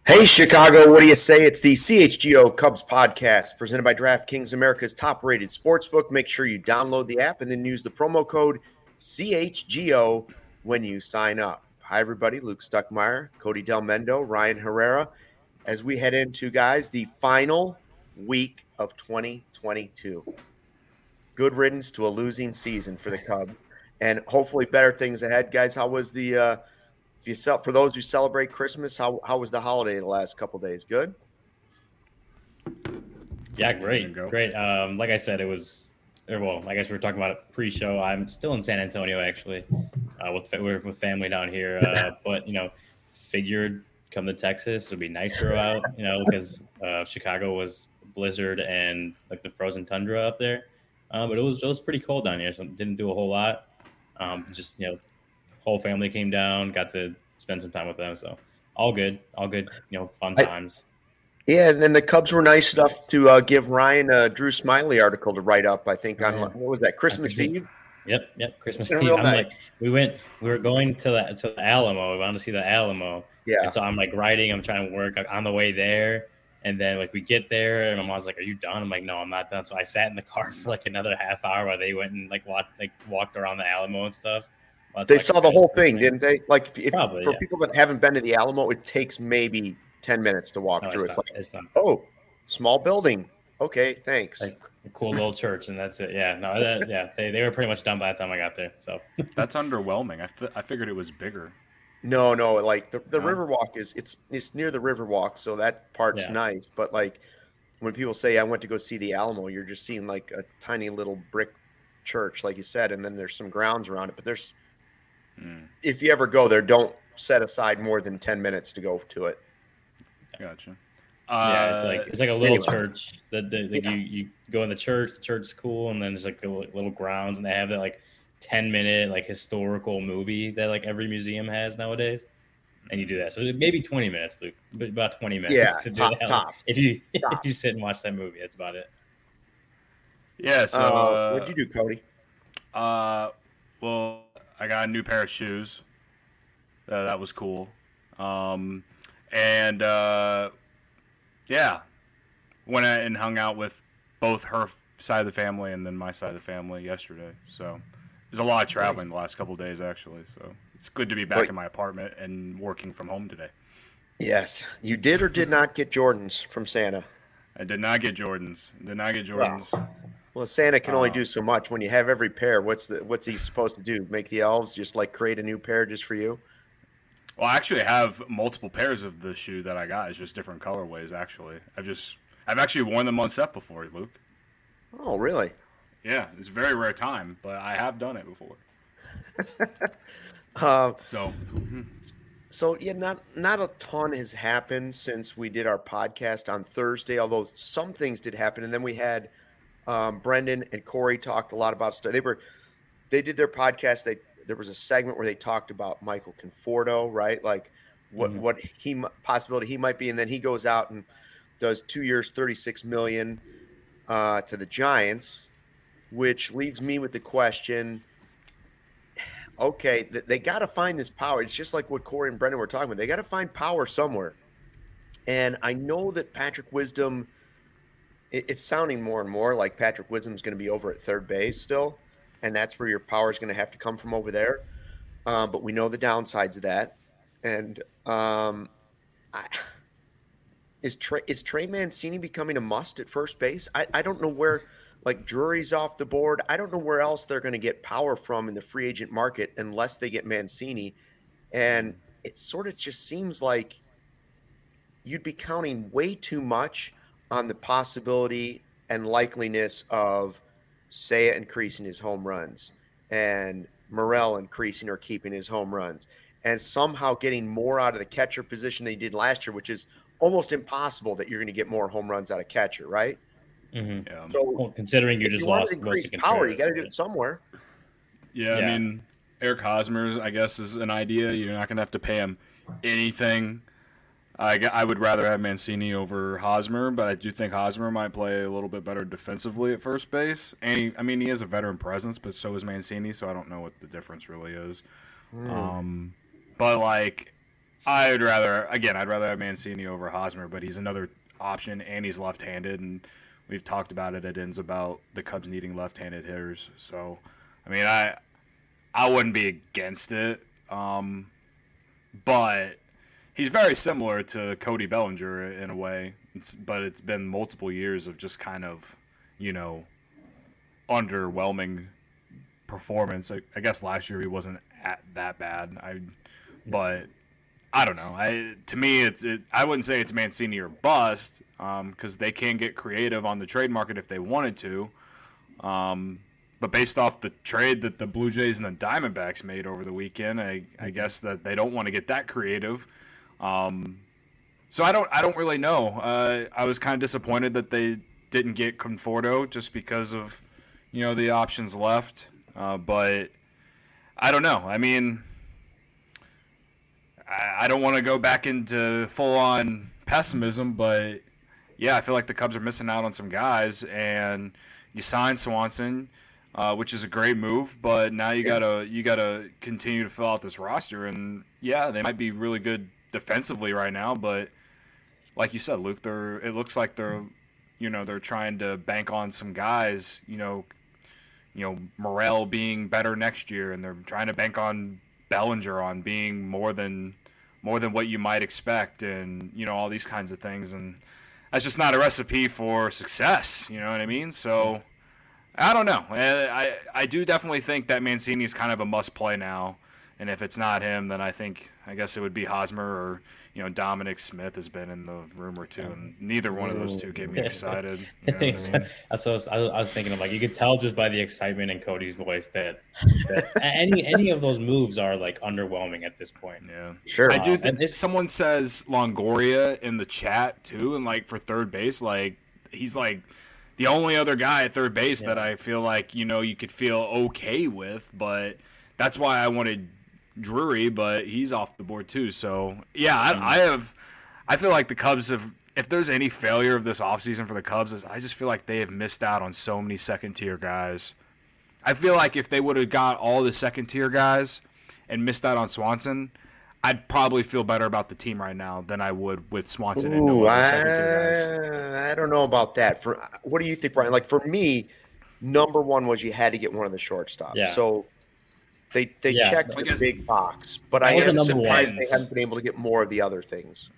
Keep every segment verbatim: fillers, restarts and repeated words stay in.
Hey, Chicago, what do you say? It's the C H G O Cubs podcast presented by DraftKings, America's top rated sportsbook. Make sure you download the app and then use the promo code C H G O when you sign up. Hi, everybody. Luke Stuckmeyer, Cody Del Mendo, Ryan Herrera, as we head into, guys, the final week of twenty twenty-two. Good riddance to a losing season for the Cubs and hopefully better things ahead. Guys, how was the uh, If you sell for those who celebrate Christmas, how how was the holiday the last couple of days? Good. Yeah, great, great. Um, like I said, it was. Or well, I guess we were talking about it pre-show. I'm still in San Antonio actually, uh, with we're with family down here. Uh, but you know, figured come to Texas it'll be nicer out. You know, because uh, Chicago was blizzard and like the frozen tundra up there. Uh, but it was it was pretty cold down here, so didn't do a whole lot. Um, just you know. Whole family came down, got to spend some time with them. So all good, all good, you know, fun times. I, yeah, and then the Cubs were nice enough to uh, give Ryan a Drew Smiley article to write up, I think, on yeah. what was that, Christmas Eve? Yep, yep, Christmas Eve. I'm night. like, we went, we were going to the, to the Alamo. We wanted to see the Alamo. Yeah. And so I'm like writing, I'm trying to work on the way there. And then like we get there and my mom's like, "Are you done?" I'm like, "No, I'm not done." So I sat in the car for like another half hour while they went and like walked, like walked around the Alamo and stuff. Well, they like saw the whole thing, didn't they? Like, if, Probably, for yeah. people that haven't been to the Alamo, it takes maybe ten minutes to walk no, through. It's, it's not, like, it's not. oh, small building. Okay, thanks. Like a cool little church, and that's it. Yeah, no, that, yeah, they, they were pretty much done by the time I got there. So that's underwhelming. I, f- I figured it was bigger. No, no, like the, the no. Riverwalk is it's it's near the Riverwalk, so that part's yeah. nice. But like when people say I went to go see the Alamo, you're just seeing like a tiny little brick church, like you said, and then there's some grounds around it, but there's Mm. if you ever go there, don't set aside more than ten minutes to go to it. Gotcha. Uh, yeah, it's like it's like a little anyway. church that, that, that yeah. you, you go in the church. The church is cool, and then there's like the little grounds, and they have that like ten minute like historical movie that like every museum has nowadays. And you do that, so maybe twenty minutes, Luke, but about twenty minutes yeah, to do top, that. Top. If you top. if you sit and watch that movie, that's about it. Yeah. So uh, uh, what'd you do, Cody? Uh, well, I got a new pair of shoes. Uh, that was cool. Um, and, uh, yeah, went out and hung out with both her side of the family and then my side of the family yesterday. So there's a lot of traveling the last couple of days, actually. So it's good to be back Wait. in my apartment and working from home today. Yes. You did or did not get Jordans from Santa? I did not get Jordans. Did not get Jordans. Wow. Well, Santa can only um, do so much. When you have every pair, what's the what's he supposed to do? Make the elves just like create a new pair just for you? Well, I actually have multiple pairs of the shoe that I got. It's just different colorways, actually. I've just I've actually worn them on set before, Luke. Oh, really? Yeah, it's a very rare time, but I have done it before. uh, so, so yeah, not not a ton has happened since we did our podcast on Thursday. Although some things did happen, and then we had um, Brendan and Corey talked a lot about stuff. They were they did their podcast. They there was a segment where they talked about Michael Conforto, right? Like what mm-hmm. what he possibility he might be, and then he goes out and does two years, thirty-six million uh, to the Giants, which leaves me with the question. Okay, they got to find this power. It's just like what Corey and Brendan were talking about. They got to find power somewhere. And I know that Patrick Wisdom, it's sounding more and more like Patrick Wisdom's going to be over at third base still. And that's where your power is going to have to come from over there. Um, but we know the downsides of that. And um, I, is, Trey, is Trey Mancini becoming a must at first base? I, I don't know where – like Drury's off the board. I don't know where else they're going to get power from in the free agent market unless they get Mancini. And it sort of just seems like you'd be counting way too much on the possibility and likeliness of Seiya increasing his home runs and Morel increasing or keeping his home runs and somehow getting more out of the catcher position than he did last year, which is almost impossible that you're going to get more home runs out of catcher, right? Mm-hmm. Yeah. So, well, considering you just you lost to increase power, you got to do it somewhere. Yeah, yeah, I mean, Eric Hosmer, I guess, is an idea. You're not going to have to pay him anything. I, I would rather have Mancini over Hosmer, but I do think Hosmer might play a little bit better defensively at first base. And he, I mean, he has a veteran presence, but so is Mancini, so I don't know what the difference really is. Mm. Um, but like, I'd rather, again, I'd rather have Mancini over Hosmer, but he's another option, and he's left-handed, and we've talked about it at ends about the Cubs needing left-handed hitters. So, I mean, I I wouldn't be against it, um, but he's very similar to Cody Bellinger in a way. It's, but it's been multiple years of just kind of, you know, underwhelming performance. I, I guess last year he wasn't at that bad. I, but I don't know. I to me, it's it, I wouldn't say it's Mancini or bust, because um, they can get creative on the trade market if they wanted to. Um, but based off the trade that the Blue Jays and the Diamondbacks made over the weekend, I, I guess that they don't want to get that creative. Um, so I don't I don't really know. Uh, I was kind of disappointed that they didn't get Conforto just because of, you know, the options left. Uh, but I don't know. I mean, I, I don't want to go back into full-on pessimism, but yeah, I feel like the Cubs are missing out on some guys, and you signed Swanson, uh, which is a great move, but now you gotta you gotta continue to fill out this roster, and yeah, they might be really good defensively right now, but like you said, Luke, they're it looks like they're you know they're trying to bank on some guys, you know, you know Morel being better next year, and they're trying to bank on Bellinger on being more than more than what you might expect, and you know all these kinds of things, and that's just not a recipe for success. You know what I mean? So I don't know. I I, I do definitely think that Mancini is kind of a must play now, and if it's not him, then I think I guess it would be Hosmer, or you know Dominic Smith has been in the room or two, and neither one of those two get me excited. You know what I mean? That's what I was, I was thinking of. Like, you could tell just by the excitement in Cody's voice that, that any any of those moves are like underwhelming at this point. Yeah, sure. I do think someone says Longoria in the chat too, and like for third base, like he's like the only other guy at third base yeah. that I feel like you know you could feel okay with, but that's why I wanted Drury, but he's off the board too. So yeah, I, I have. I feel like the Cubs have. If there's any failure of this offseason for the Cubs, I just feel like they have missed out on so many second tier guys. I feel like if they would have got all the second tier guys and missed out on Swanson, I'd probably feel better about the team right now than I would with Swanson Ooh, and no other I, second tier guys. I don't know about that. For what do you think, Brian? Like for me, number one was you had to get one of the shortstops. Yeah. So. They they yeah, checked the big box, but I am surprised they haven't been able to get more of the other things.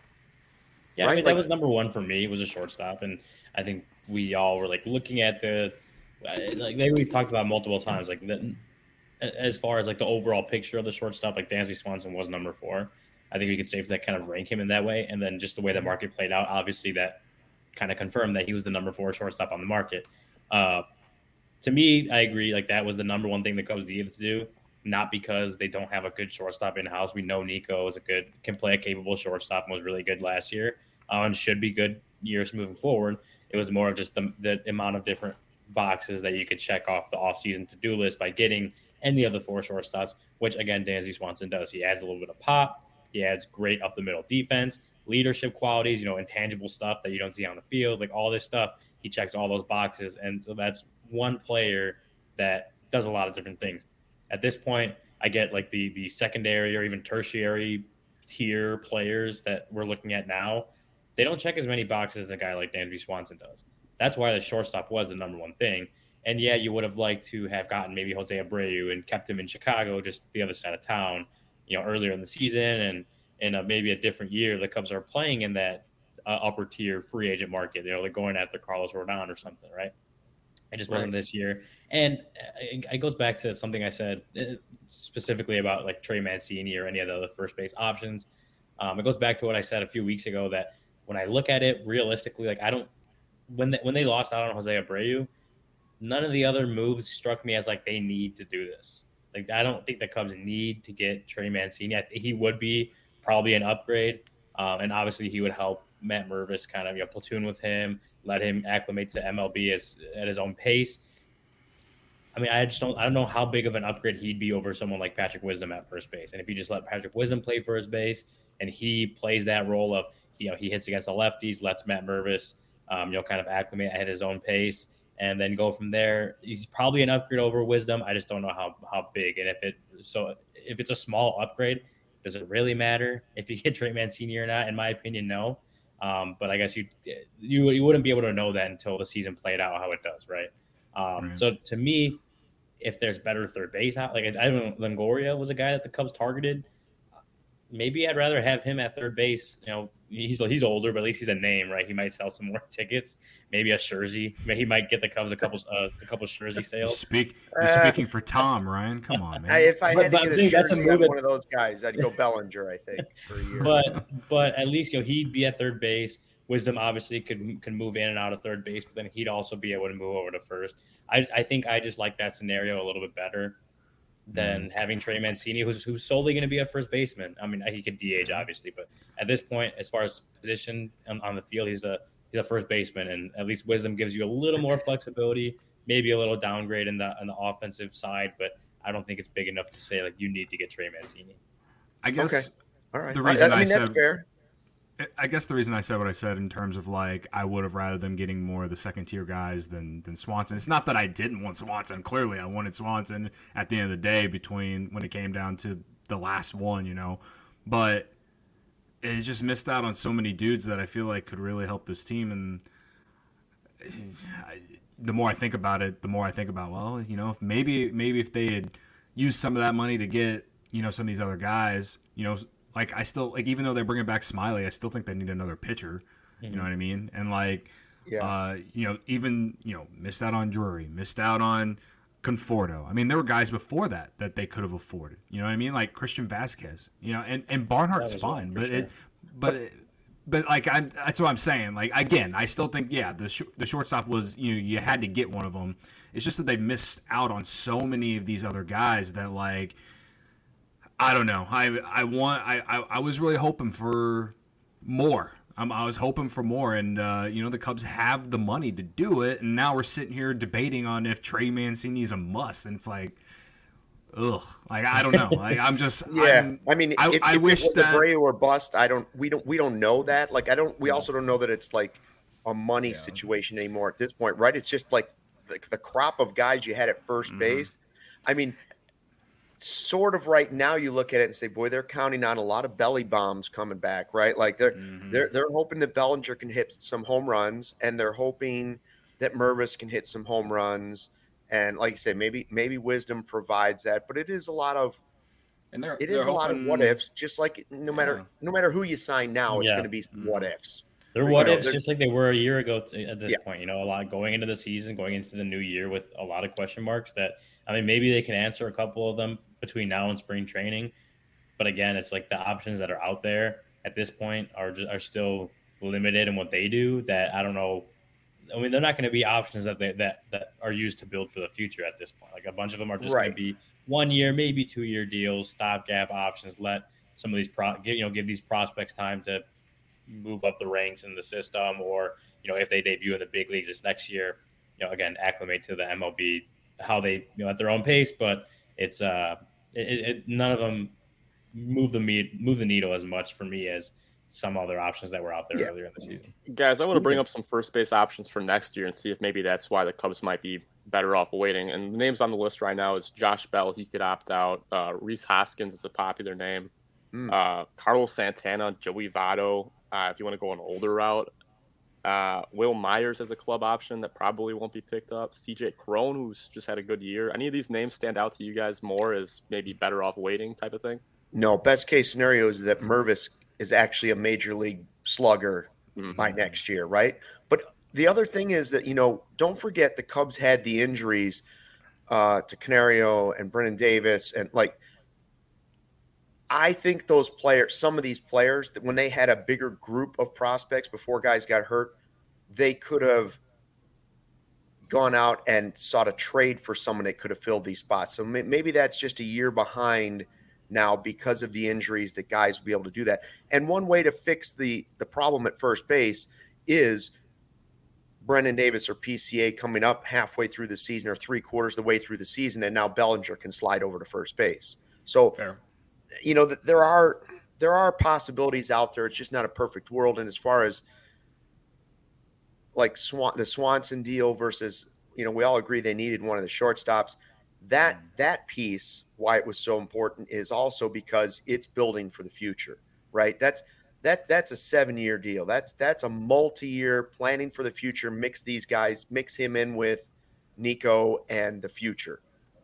Yeah, right? I mean, like, that was number one for me. It was a shortstop, and I think we all were like looking at the like maybe we've talked about multiple times, like the, as far as like the overall picture of the shortstop, like Dansby Swanson was number four. I think we could safely kind of rank him in that way, and then just the way the market played out, obviously that kind of confirmed that he was the number four shortstop on the market. Uh, To me, I agree. Like that was the number one thing the Cubs needed to do. Not because they don't have a good shortstop in house. We know Nico is a good, can play a capable shortstop and was really good last year, uh, and should be good years moving forward. It was more of just the, the amount of different boxes that you could check off the offseason to-do list by getting any of the four shortstops, which again Dansby Swanson does. He adds a little bit of pop. He adds great up the middle defense, leadership qualities, you know, intangible stuff that you don't see on the field, like all this stuff. He checks all those boxes, and so that's one player that does a lot of different things. At this point, I get like the the secondary or even tertiary tier players that we're looking at now. They don't check as many boxes as a guy like Dansby Swanson does. That's why the shortstop was the number one thing. And yeah, you would have liked to have gotten maybe Jose Abreu and kept him in Chicago, just the other side of town, you know, earlier in the season, and in a, maybe a different year, the Cubs are playing in that uh, upper tier free agent market. You know, they're going after Carlos Rodon or something, right? It just wasn't right. this year. And it, it goes back to something I said specifically about like Trey Mancini or any of the other first base options. Um, it goes back to what I said a few weeks ago, that when I look at it realistically, like I don't, when they, when they lost out on Jose Abreu, none of the other moves struck me as like they need to do this. Like I don't think the Cubs need to get Trey Mancini. I think he would be probably an upgrade. Um, and obviously he would help Matt Mervis kind of, you know, platoon with him, let him acclimate to M L B as, at his own pace. I mean, I just don't, I don't know how big of an upgrade he'd be over someone like Patrick Wisdom at first base. And if you just let Patrick Wisdom play first base and he plays that role of, you know, he hits against the lefties, lets Matt Mervis, um, you know, kind of acclimate at his own pace, and then go from there. He's probably an upgrade over Wisdom. I just don't know how, how big. And if it, so if it's a small upgrade, Does it really matter if you get Trey Mancini or not? In my opinion, no. Um, but I guess you you you wouldn't be able to know that until the season played out how it does, right? Um, right. So to me, if there's better third base out, like I don't know, Longoria was a guy that the Cubs targeted. Maybe I'd rather have him at third base. You know, he's he's older, but at least he's a name, right? He might sell some more tickets. Maybe a jersey. Maybe he might get the Cubs a couple uh, a couple jersey sales. You speak, you're uh, speaking for Tom, Ryan. Come on, man. If I had but, to get a jersey on one of those guys, I'd go Bellinger, I think, for a year. But but at least you know he'd be at third base. Wisdom obviously could can move in and out of third base, but then he'd also be able to move over to first. I I think I just like that scenario a little bit better than having Trey Mancini, who's who's solely going to be a first baseman. I mean, he could D H obviously, but at this point, as far as position on, on the field, he's a he's a first baseman, and at least Wisdom gives you a little more flexibility, maybe a little downgrade in the on the offensive side, but I don't think it's big enough to say like you need to get Trey Mancini. I guess. Okay. All right. The reason I, I, mean, I said that's fair. I guess the reason I said what I said in terms of like I would have rather them getting more of the second tier guys than than Swanson. It's not that I didn't want Swanson. Clearly, I wanted Swanson at the end of the day between when it came down to the last one, you know. But it just missed out on so many dudes that I feel like could really help this team. And I, the more I think about it, the more I think about well, you know, if maybe maybe if they had used some of that money to get you know some of these other guys, you know. Like, I still, like, even though they're bringing back Smiley, I still think they need another pitcher. Mm-hmm. You know what I mean? And, like, yeah. uh, you know, even, you know, missed out on Drury, missed out on Conforto. I mean, there were guys before that that they could have afforded. You know what I mean? Like Christian Vasquez, you know, and, and Barnhart's fine. But, sure. it, but, it, but, like, I'm, that's what I'm saying. Like, again, I still think, yeah, the sh- the shortstop was, you know, you had to get one of them. It's just that they missed out on so many of these other guys that, like, I don't know. I I want. I, I, I was really hoping for more. Um, I was hoping for more, and uh, you know the Cubs have the money to do it, and now we're sitting here debating on if Trey Mancini is a must, and it's like, ugh. Like I don't know. Like I'm just. yeah. I'm, I mean, I, if, I if wish it was that Abreu or bust. I don't. We don't. We don't know that. Like I don't. We also don't know that it's like a money yeah. situation anymore at this point, right? It's just like the, the crop of guys you had at first mm-hmm. base. I mean. Sort of right now you look at it and say, boy, they're counting on a lot of belly bombs coming back, right? Like they're mm-hmm. they're they're hoping that Bellinger can hit some home runs, and they're hoping that Mervis can hit some home runs. And like you say, maybe maybe Wisdom provides that, but it is a lot of and they're, it is they're a lot hoping, of what ifs. Just like no matter yeah. no matter who you sign now, it's yeah. going to be mm-hmm. what ifs. They're what ifs, just like they were a year ago to, at this yeah. point. You know, a lot going into the season, going into the new year with a lot of question marks. That I mean, maybe they can answer a couple of them between now and spring training, but again, it's like the options that are out there at this point are just, are still limited in what they do. That I don't know. I mean, they're not going to be options that they, that that are used to build for the future at this point. Like a bunch of them are just right. going to be one year, maybe two year deals, stopgap options. Let some of these pro, you know, give these prospects time to move up the ranks in the system, or you know, if they debut in the big leagues this next year, you know, again, acclimate to the M L B, how they you know at their own pace, but. It's uh, it, it, none of them move the meat, move the needle as much for me as some other options that were out there yeah. earlier in the season. Guys, I want to bring up some first base options for next year and see if maybe that's why the Cubs might be better off waiting. And the names on the list right now is Josh Bell. He could opt out. Uh, Rhys Hoskins is a popular name. Mm. Uh, Carlos Santana, Joey Votto. Uh, if you want to go an older route. Uh, Will Myers as a club option that probably won't be picked up. C J Cron, who's just had a good year. Any of these names stand out to you guys more as maybe better off waiting type of thing? No, best case scenario is that Mervis is actually a major league slugger mm-hmm. by next year, right? But the other thing is that, you know, don't forget the Cubs had the injuries uh, to Canario and Brennan Davis. And, like, I think those players, some of these players, that when they had a bigger group of prospects before guys got hurt, they could have gone out and sought a trade for someone that could have filled these spots. So maybe that's just a year behind now because of the injuries that guys will be able to do that. And one way to fix the the problem at first base is Brennan Davis or P C A coming up halfway through the season or three quarters of the way through the season, and now Bellinger can slide over to first base. So, Fair. you know, there are there are possibilities out there. It's just not a perfect world. And as far as like Swan, the Swanson deal versus, you know, we all agree they needed one of the shortstops. that that piece, why it was so important, is also because it's building for the future, right? That's that that's a seven-year deal. That's that's a multi-year planning for the future. Mix these guys, mix him in with Nico and the future.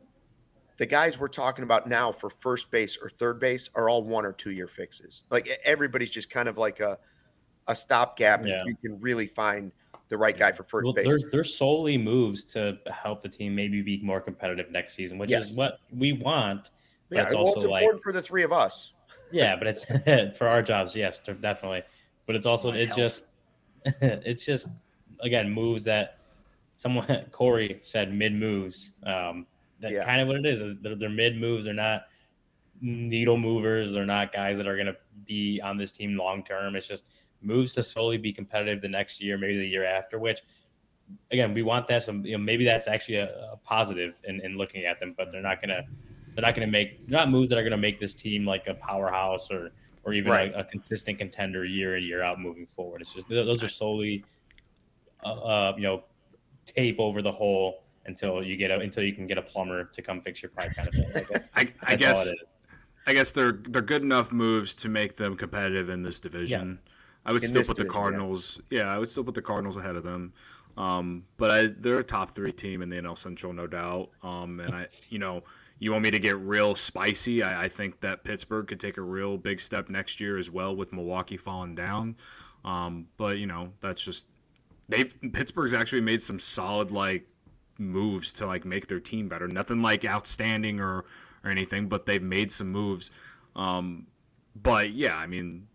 The guys we're talking about now for first base or third base are all one or two year fixes. Like everybody's just kind of like a a stopgap Yeah. if you can really find the right guy for first Well, base. there's there's solely moves to help the team maybe be more competitive next season, which Yes. is what we want. But Yeah, it's well, also it's like important for the three of us. yeah, but it's for our jobs, yes, definitely. But it's also My it's health. just it's just again moves that someone Corey said mid moves. Um, that Yeah. kind of what it is. Is they're, they're mid moves. They're not needle movers. They're not guys that are going to be on this team long term. It's just moves to slowly be competitive the next year, maybe the year after. Which again, we want that. So you know, maybe that's actually a, a positive in, in looking at them. But they're not going to. They're not going to make. They're not moves that are going to make this team like a powerhouse or or even Right. a, a consistent contender year in year out moving forward. It's just those are solely, uh, uh, you know, tape over the hole until you get a, until you can get a plumber to come fix your pipe kind of thing. Like that's, I, I that's all guess it is. I guess they're they're good enough moves to make them competitive in this division. I would In still this put the division, yeah. Cardinals. Yeah. I would still put the Cardinals ahead of them. Um, but I, they're a top three team in the N L Central, no doubt. Um, and I, you know, you want me to get real spicy? I, I think that Pittsburgh could take a real big step next year as well, with Milwaukee falling down. Um, but you know, that's just they've Pittsburgh's actually made some solid like moves to like make their team better. Nothing like outstanding or or anything, but they've made some moves. Um, but yeah, I mean,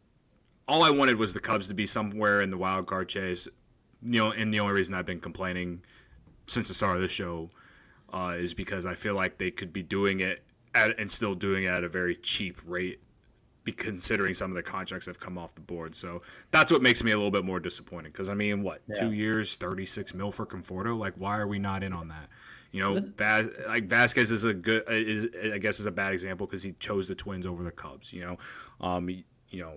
all I wanted was the Cubs to be somewhere in the wild card chase. You know, and the only reason I've been complaining since the start of this show uh, is because I feel like they could be doing it at, and still doing it at a very cheap rate, be considering some of the contracts that have come off the board. So that's what makes me a little bit more disappointed. Because I mean, what Yeah. two years, thirty-six mil for Conforto? Like, why are we not in on that? You know, Vaz, like Vasquez is a good, is I guess is a bad example because he chose the Twins over the Cubs. You know, um, you know.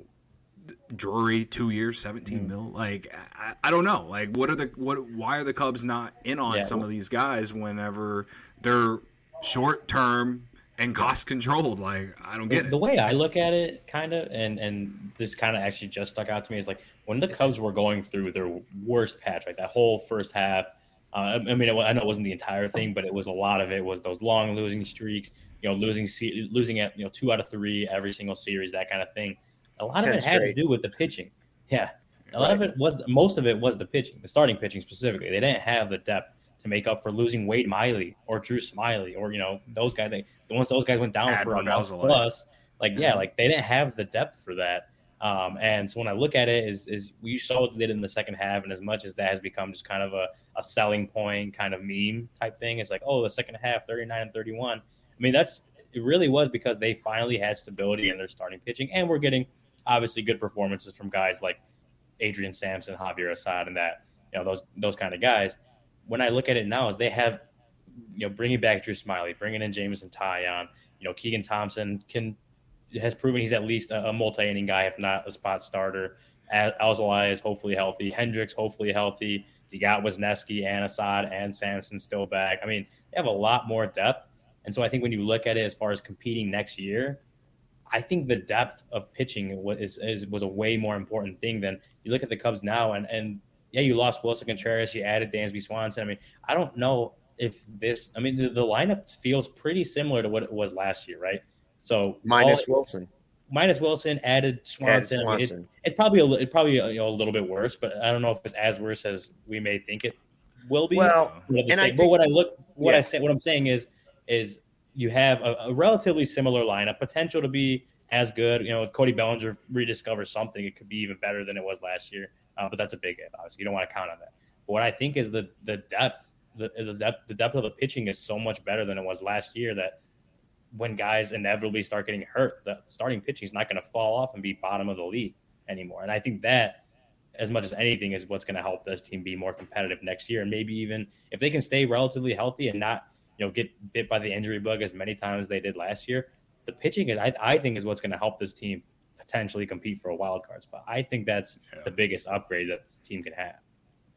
Drury, two years, seventeen mil. Like, I, I don't know. Like, what are the what? Why are the Cubs not in on Yeah. some of these guys whenever they're short term and cost controlled? Like, I don't get The, it. the way I look at it, kind of, and and this kind of actually just stuck out to me is like when the Cubs were going through their worst patch, like that whole first half. Uh, I mean, it, I know it wasn't the entire thing, but it was a lot of it. Was those long losing streaks, you know, losing se- losing at you know two out of three every single series, that kind of thing. A lot of ten it had straight. to do with the pitching. Yeah, a lot of it was most of it was the pitching, the starting pitching specifically. They didn't have the depth to make up for losing Wade Miley or Drew Smiley or you know those guys. They, the ones those guys went down for a Adbert month Alzolay. plus. Like yeah, like they didn't have the depth for that. Um, and so when I look at it, is is you saw what they did in the second half, and as much as that has become just kind of a, a selling point kind of meme type thing, it's like oh the second half thirty-nine and thirty-one. I mean that's it really was because they finally had stability in their starting pitching, and we're getting obviously good performances from guys like Adrian Sampson, Javier Assad, and that you know those those kind of guys. When I look at it now, is they have you know bringing back Drew Smiley, bringing in Jameson Taillon, you know Keegan Thompson can has proven he's at least a, a multi-inning guy, if not a spot starter. Alzolay is hopefully healthy. Hendricks hopefully healthy. You got Wisniewski and Assad and Sampson still back. I mean, they have a lot more depth, and so I think when you look at it as far as competing next year, I think the depth of pitching was is, was a way more important thing than you look at the Cubs now. And and yeah, you lost Wilson Contreras, you added Dansby Swanson. I mean, I don't know if this. I mean, the, the lineup feels pretty similar to what it was last year, right? So Minus all, Wilson. minus Wilson, added Swanson. Added I mean, Swanson. it, it's probably a, it probably you know, a little bit worse, but I don't know if it's as worse as we may think it will be. Well, But at the and same- I but think- what I look, what yeah. I say, what I'm saying is, is you have a, a relatively similar lineup, potential to be as good. You know, if Cody Bellinger rediscovers something, it could be even better than it was last year. Uh, but that's a big if, obviously. You don't want to count on that. But what I think is the the depth, the, the depth, the depth of the pitching is so much better than it was last year that when guys inevitably start getting hurt, the starting pitching is not going to fall off and be bottom of the league anymore. And I think that, as much as anything, is what's going to help this team be more competitive next year. And maybe even if they can stay relatively healthy and not, you know, get bit by the injury bug as many times as they did last year, the pitching is, I, I think, is what's going to help this team potentially compete for a wild card spot. I think that's Yeah. the biggest upgrade that this team can have.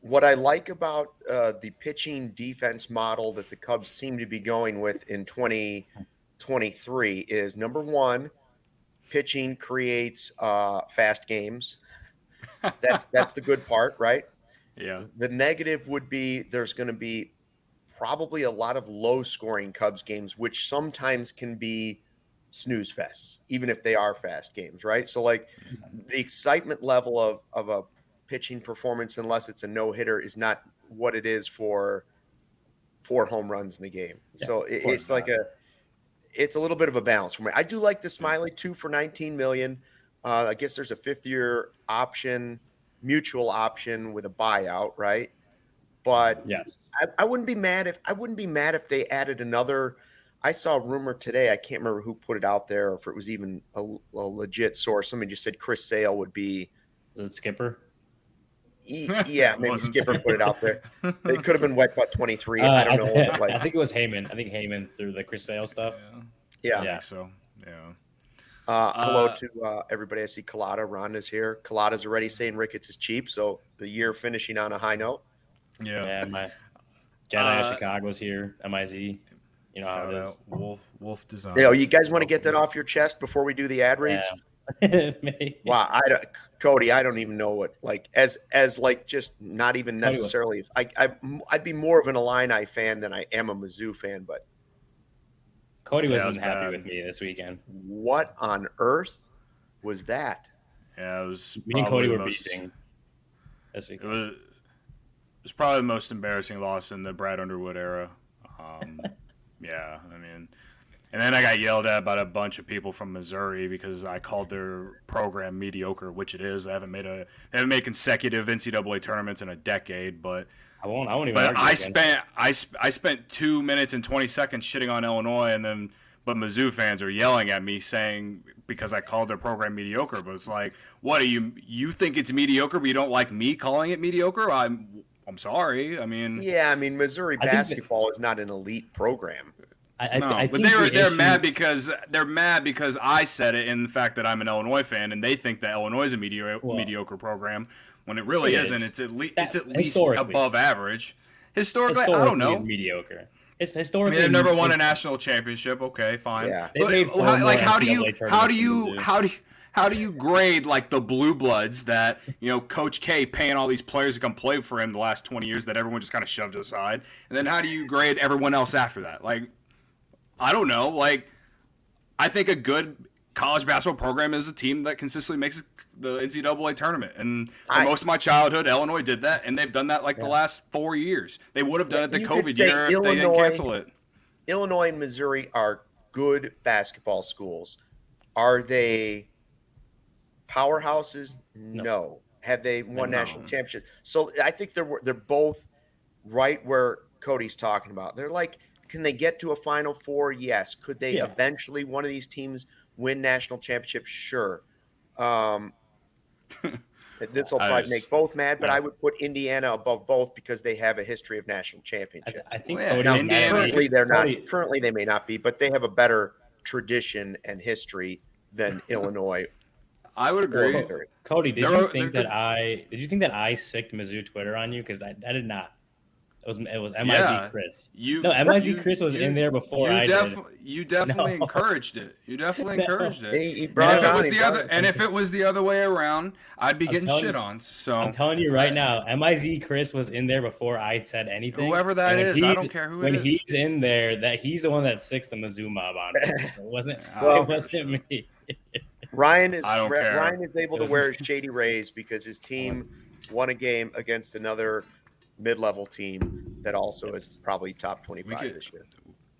what I like about uh, the pitching defense model that the Cubs seem to be going with in twenty twenty-three is number one, pitching creates uh, fast games. That's that's the good part, right? Yeah. The negative would be there's going to be probably a lot of low-scoring Cubs games, which sometimes can be snooze fests, even if they are fast games, right? So, like, the excitement level of of a pitching performance, unless it's a no-hitter, is not what it is for four home runs in the game. Yeah, so it, it's not. like a it's a little bit of a balance for me. I do like the Smiley two for nineteen million. Uh, I guess there's a fifth year option, mutual option with a buyout, right? But yes, I, I wouldn't be mad if I wouldn't be mad if they added another. I saw a rumor today. I can't remember who put it out there, or if it was even a, a legit source. Somebody just said Chris Sale would be. Is it Skipper? Yeah, maybe Skipper put it out there. It could have been Wet Butt twenty-three. Uh, I don't know. I, like, I think it was Heyman. I think Heyman through the Chris Sale stuff. Yeah, yeah. I think so yeah. Uh, hello uh, to uh, everybody. I see Collada. Rhonda's here. Collada's already saying Ricketts is cheap, so the year finishing on a high note. Yeah, yeah. My Jedi uh, Chicago's here. M I Z. You know how it is. Wolf Wolf Design. Yeah, you guys want to get that off your chest before we do the ad reads? Yeah. Wow, I don't, Cody, I don't even know what like as as like just not even necessarily. I, I I'd be more of an Illini fan than I am a Mizzou fan, but Cody wasn't yeah, was happy bad. with me this weekend. What on earth was that? Yeah, it was. Me and Cody were most, beating this weekend. It was, it was probably the most embarrassing loss in the Brad Underwood era. Um, yeah, I mean. And then I got yelled at by a bunch of people from Missouri because I called their program mediocre, which it is. They haven't made a they haven't made consecutive N C double A tournaments in a decade, but I won't. I won't even. But I spent I, I spent two minutes and twenty seconds shitting on Illinois, and then but Mizzou fans are yelling at me saying because I called their program mediocre. But it's like, what are you? You think it's mediocre, but you don't like me calling it mediocre? I'm I'm sorry. I mean, yeah, I mean Missouri basketball is not an elite program. I, no, I but they were the they're issue... mad because they're mad because I said it in the fact that I'm an Illinois fan and they think that Illinois is a medio- well, mediocre program when it really it isn't. Is. It's at least that, it's at least above average. Historically, historically, I don't know. It's mediocre. It's historically. I mean, they've never won a national championship. Okay, fine. Yeah. But, how, like how do you how do you how do you how do you grade like the blue bloods that, you know, Coach K paying all these players to come play for him the last twenty years that everyone just kind of shoved aside, and then how do you grade everyone else after that? Like. I don't know. Like, I think a good college basketball program is a team that consistently makes the N C double A tournament. And for I, most of my childhood, Illinois did that, and they've done that like yeah. the last four years. They would have done it the COVID year if they didn't cancel it. Illinois and Missouri are good basketball schools. Are they powerhouses? No. no. Have they won no. national championships? So I think they're they're both right where Cody's talking about. They're like. Can they get to a Final Four? Yes. Could they yeah. eventually, one of these teams, win national championships? Sure. Um, this will probably just, make both mad, but yeah. I would put Indiana above both because they have a history of national championships. I, I think well, yeah. now, currently they're not. Cody. Currently they may not be, but they have a better tradition and history than Illinois. I would agree. Cody, did they're, you think that good. I did you think that I sicked Mizzou Twitter on you? Because I, I did not. It was it was M I Z yeah, Chris. You, no, M I Z you, Chris was you, in there before you I def- did. You definitely no. encouraged it. You definitely no. encouraged it. He, he and if it was the other, and if it was the other way around, I'd be I'm getting shit you, on. So I'm telling you right now, M I Z Chris was in there before I said anything. Whoever that is, I don't care who when it is. When he's in there, that he's the one that sicks the Mizzou mob on. So it wasn't. well, it wasn't me. Ryan is I don't care. Ryan is able to wear Shady Rays because his team won a game against another mid-level team that also yes. is probably top twenty-five could, this year.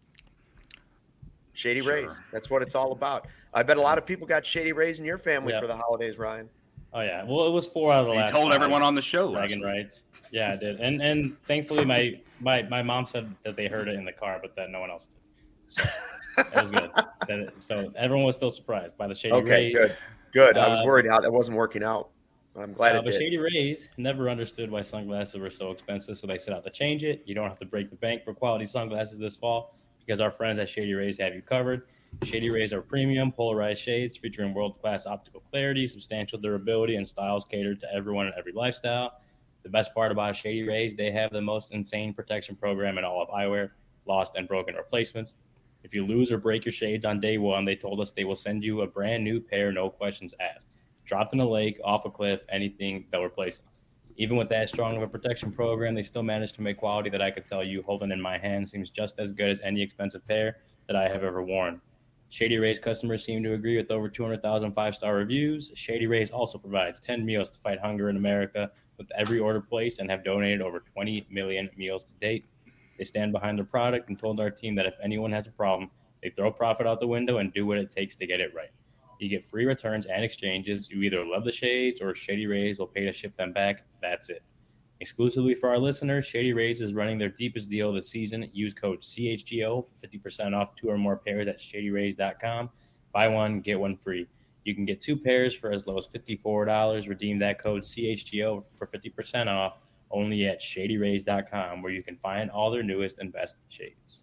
Shady sure. Rays. That's what it's all about. I bet a lot of people got Shady Rays in your family yep. for the holidays, Ryan. Oh yeah. Well, it was four out of the you last. You told five. everyone on the show. Dragon rights. Yeah, I did. And and thankfully my, my my mom said that they heard it in the car, but that no one else did. So that was good. That, so everyone was still surprised by the Shady okay, Rays. Okay, good. Good. I was uh, worried how that wasn't working out. I'm glad uh, it but did. Shady Rays never understood why sunglasses were so expensive, so they set out to change it. You don't have to break the bank for quality sunglasses this fall because our friends at Shady Rays have you covered. Shady Rays are premium, polarized shades featuring world-class optical clarity, substantial durability, and styles catered to everyone and every lifestyle. The best part about Shady Rays, they have the most insane protection program in all of eyewear, lost and broken replacements. If you lose or break your shades on day one, they told us they will send you a brand new pair, no questions asked. Dropped in a lake, off a cliff, anything, they'll replace them. Even with that strong of a protection program, they still managed to make quality that I could tell you holding in my hand seems just as good as any expensive pair that I have ever worn. Shady Rays customers seem to agree with over two hundred thousand five-star reviews. Shady Rays also provides ten meals to fight hunger in America with every order placed and have donated over twenty million meals to date. They stand behind their product and told our team that if anyone has a problem, they throw profit out the window and do what it takes to get it right. You get free returns and exchanges. You either love the shades or Shady Rays will pay to ship them back. That's it. Exclusively for our listeners, Shady Rays is running their deepest deal this season. Use code C H G O, fifty percent off two or more pairs at shady rays dot com. Buy one, get one free. You can get two pairs for as low as fifty-four dollars. Redeem that code C H G O for fifty percent off only at shady rays dot com, where you can find all their newest and best shades.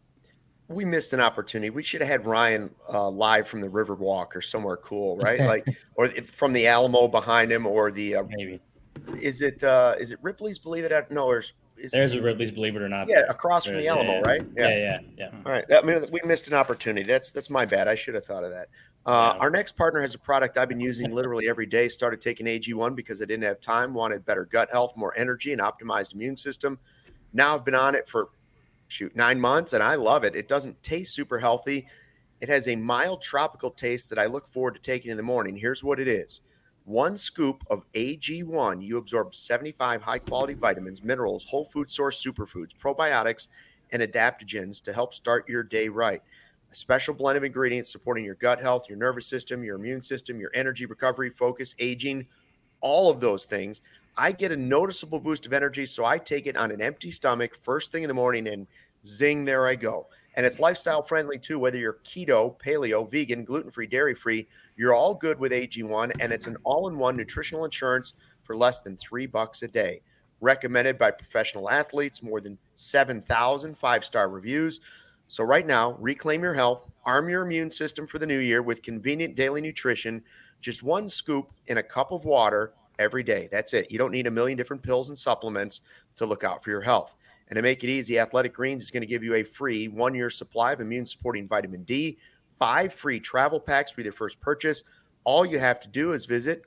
We missed an opportunity. We should have had Ryan uh, live from the Riverwalk or somewhere cool, right? Like, or from the Alamo behind him, or the uh, maybe. Is it uh, is it Ripley's Believe It or No? Or is There's it, a Ripley's Believe It or Not. Yeah, there. across There's, from the Alamo, yeah, right? Yeah. yeah, yeah, yeah. All right. I mean, we missed an opportunity. That's that's my bad. I should have thought of that. Uh, Yeah. Our next partner has a product I've been using literally every day. Started taking A G one because I didn't have time, wanted better gut health, more energy, and optimized immune system. Now I've been on it for, shoot, nine months, and I love it. It doesn't taste super healthy. It has a mild tropical taste that I look forward to taking in the morning. Here's what it is. One scoop of A G one, you absorb seventy-five high-quality vitamins, minerals, whole food source superfoods, probiotics, and adaptogens to help start your day right. A special blend of ingredients supporting your gut health, your nervous system, your immune system, your energy recovery, focus, aging, all of those things. I get a noticeable boost of energy, so I take it on an empty stomach first thing in the morning, and zing, there I go. And it's lifestyle friendly too, whether you're keto, paleo, vegan, gluten-free, dairy-free, you're all good with A G one, and it's an all-in-one nutritional insurance for less than three bucks a day. Recommended by professional athletes, more than seven thousand five-star reviews. So right now, reclaim your health, arm your immune system for the new year with convenient daily nutrition, just one scoop in a cup of water every day. That's it. You don't need a million different pills and supplements to look out for your health. And to make it easy, Athletic Greens is going to give you a free one-year supply of immune-supporting vitamin D, five free travel packs with your first purchase. All you have to do is visit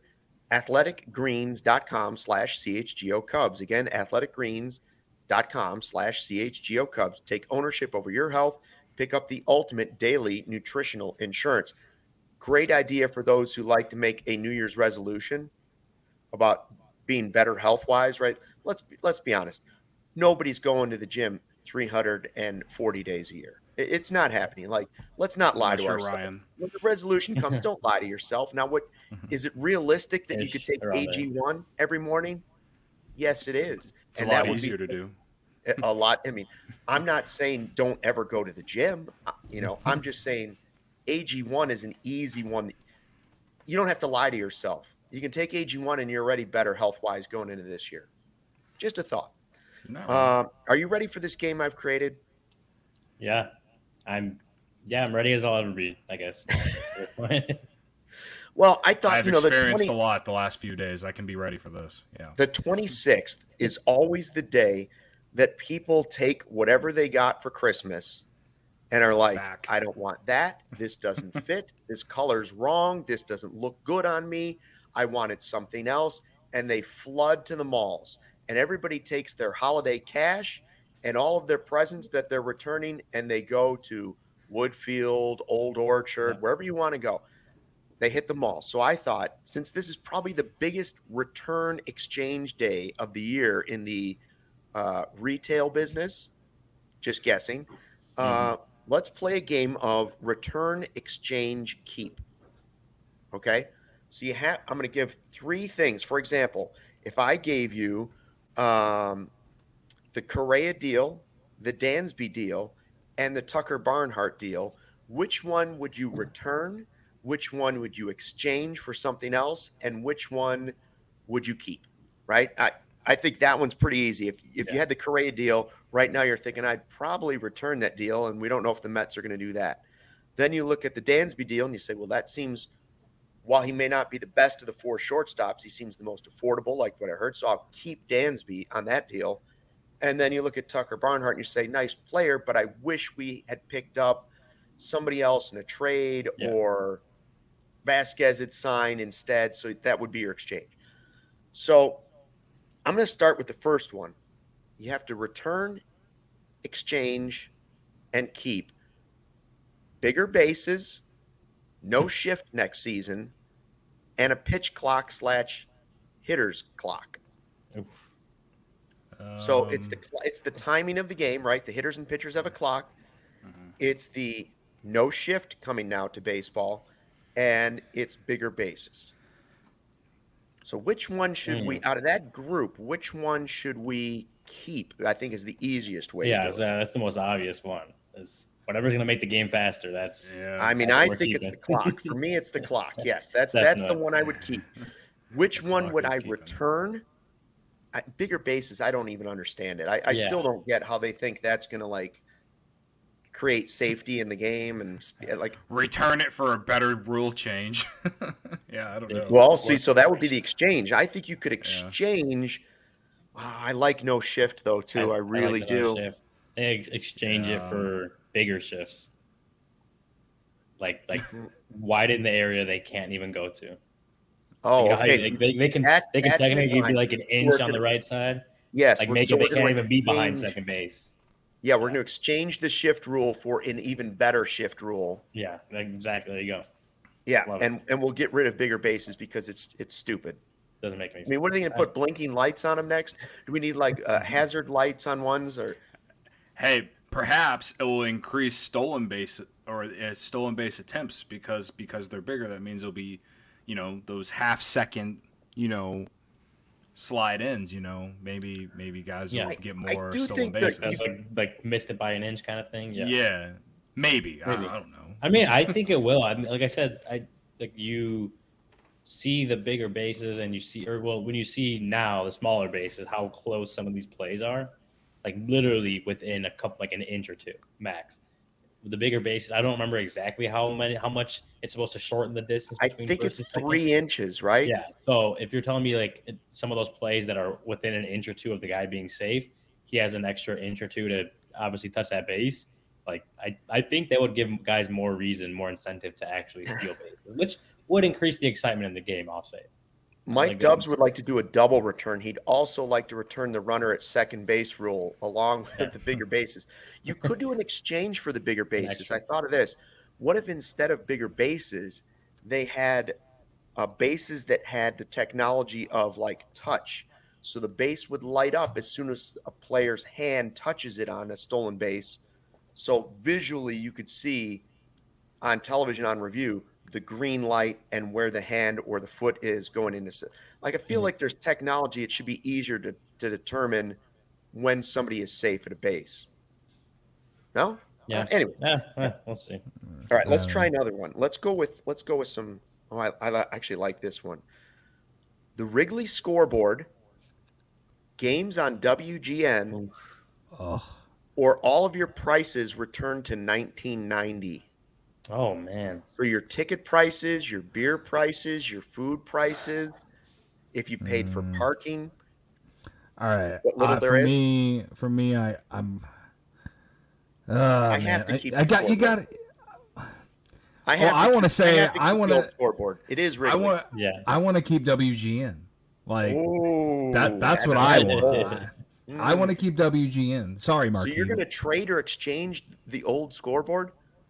athleticgreens.com slash CHGO Cubs. Again, athleticgreens.com slash CHGO Cubs. Take ownership over your health. Pick up the ultimate daily nutritional insurance. Great idea for those who like to make a New Year's resolution about being better health-wise, right? Let's be, let's be honest. Nobody's going to the gym three hundred forty days a year. It's not happening. Like, let's not lie Unless to you're ourselves. Ryan. When the resolution comes, don't lie to yourself. Now, what is it realistic that you Ish, could take around A G one every morning? Yes, it is. It's And a lot that would easier be to do. a lot. I mean, I'm not saying don't ever go to the gym. Uh, You know, I'm just saying A G one is an easy one. You don't have to lie to yourself. You can take A G one and you're already better health-wise going into this year. Just a thought. No. Uh, are you ready for this game I've created? Yeah, I'm. Yeah, I'm ready as I'll ever be, I guess. Well, I thought, I've you know, the experienced twenty a lot the last few days. I can be ready for this. Yeah. the twenty-sixth is always the day that people take whatever they got for Christmas and are like, Back. I don't want that. This doesn't fit. This color's wrong. This doesn't look good on me. I wanted something else. And they flood to the malls. And everybody takes their holiday cash and all of their presents that they're returning, and they go to Woodfield, Old Orchard, wherever you want to go. They hit the mall. So I thought, since this is probably the biggest return exchange day of the year in the uh, retail business, just guessing, uh, mm-hmm. let's play a game of return, exchange, keep. Okay? So you have, I'm going to give three things. For example, if I gave you um, the Correa deal, the Dansby deal, and the Tucker Barnhart deal, which one would you return? Which one would you exchange for something else? And which one would you keep? Right? I, I think that one's pretty easy. If if yeah. you had the Correa deal, right now you're thinking, I'd probably return that deal, and we don't know if the Mets are going to do that. Then you look at the Dansby deal, and you say, well, that seems while he may not be the best of the four shortstops, he seems the most affordable, like what I heard. So I'll keep Dansby on that deal. And then you look at Tucker Barnhart and you say, nice player, but I wish we had picked up somebody else in a trade yeah. or Vasquez had signed instead. So that would be your exchange. So I'm going to start with the first one. You have to return, exchange, and keep bigger bases, no shift next season, and a pitch clock slash hitters clock. Um, so it's the it's the timing of the game, right? The hitters and pitchers have a clock. Mm-hmm. It's the no shift coming now to baseball, and it's bigger bases. So which one should mm. we, out of that group, which one should we keep? I think is the easiest way. Yeah, to do so it. That's the most obvious one. Is whatever's going to make the game faster. That's. Yeah. I mean, I think keeping. It's the clock. For me, it's the clock. Yes, that's that's the one I would keep. Which one would I return? I, bigger bases, I don't even understand it. I, I yeah. still don't get how they think that's going to like create safety in the game and like return it for a better rule change. yeah, I don't know. Well, see, so that would be the exchange. I think you could exchange. Yeah. Wow, I like no shift though too. I, I really I like do. No shift. They ex- exchange yeah. it for bigger shifts, like like widen the area they can't even go to. Oh, you know okay. They, they, they can that, they can technically be like an inch on the right side. Yes, like make so it they can't like even be behind second base. Yeah, we're going to exchange the shift rule for an even better shift rule. Yeah, exactly. There you go. Yeah, Love and, and we'll get rid of bigger bases because it's it's stupid. Doesn't make any sense. I mean, what are they going to put blinking lights on them next? Do we need like uh, hazard lights on ones or? Hey, perhaps it will increase stolen base or uh, stolen base attempts because because they're bigger. That means it'll be, you know, those half second, you know, slide ins, you know, maybe maybe guys yeah, will I, get more stolen bases. Like, like missed it by an inch kind of thing. Yeah, yeah, maybe. maybe. I, I don't know. I mean, I think it will. I mean, like I said, I like you see the bigger bases and you see, or well, when you see now the smaller bases, how close some of these plays are, like literally within a couple, like an inch or two max. With the bigger bases, I don't remember exactly how many, how much it's supposed to shorten the distance. I think it's three inches, right? Yeah. So if you're telling me like some of those plays that are within an inch or two of the guy being safe, he has an extra inch or two to obviously touch that base. Like I, I think that would give guys more reason, more incentive to actually steal bases, which would increase the excitement in the game. I'll say. Mike like Dubs would like to do a double return. He'd also like to return the runner at second base rule along with yeah. the bigger bases. You could do an exchange for the bigger bases. I thought of this. What if instead of bigger bases, they had uh, bases that had the technology of like touch? So the base would light up as soon as a player's hand touches it on a stolen base. So visually you could see on television on review the green light and where the hand or the foot is going into. Like, I feel mm-hmm. like there's technology. It should be easier to, to determine when somebody is safe at a base. No? Yeah. Uh, anyway. Yeah, yeah, we'll see. All right, let's try another one. Let's go with, let's go with some, oh, I, I actually like this one. The Wrigley scoreboard, games on W G N, oh. or all of your prices return to nineteen ninety. Oh, man. So your ticket prices, your beer prices, your food prices, if you paid mm. for parking. All right. Uh, for is. me, for me, I, I'm. Uh, I man. have to keep. I, I got you. Got it. I have. Well, I want to say. I want to scoreboard. It is Wrigley. I want. Yeah. I want to keep W G N. Like Ooh, that. That's what I want. I, mm. I want to keep W G N. Sorry, Mark. So you're going to trade or exchange the old scoreboard?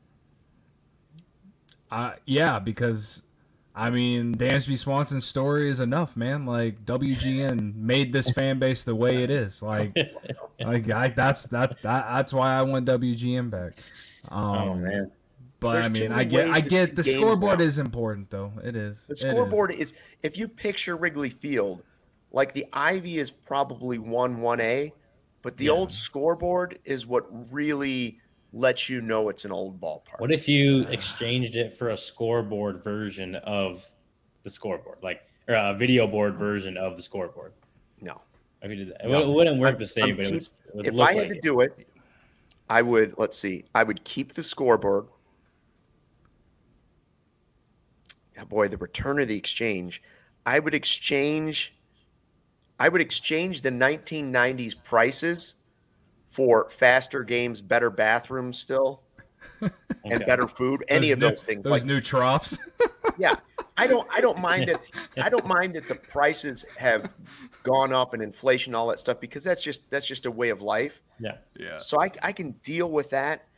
Uh, yeah, because, I mean, Dansby Swanson's story is enough, man. Like, W G N made this fan base the way it is. Like, like I, that's that, that that's why I want W G N back. Um, oh man! But There's I mean, I get, I get the scoreboard now. Is important though. It is. The scoreboard is. is. If you picture Wrigley Field, like the Ivy is probably one one A, but the yeah. old scoreboard is what really lets you know it's an old ballpark. What if you exchanged it for a scoreboard version of the scoreboard, like or a video board version of the scoreboard? No, if you did that, no. it wouldn't work I'm, the same. I'm but keep, it would, it would if look I had like to it. do it, I would. Let's see. I would keep the scoreboard, oh boy, the return of the exchange. I would exchange. I would exchange the nineteen nineties prices for faster games, better bathrooms still, okay. and better food. Any those of new, those things. Those like, new troughs. yeah, I don't. I don't mind that. I don't mind that the prices have gone up and inflation, all that stuff, because that's just that's just a way of life. Yeah, yeah. So I I can deal with that.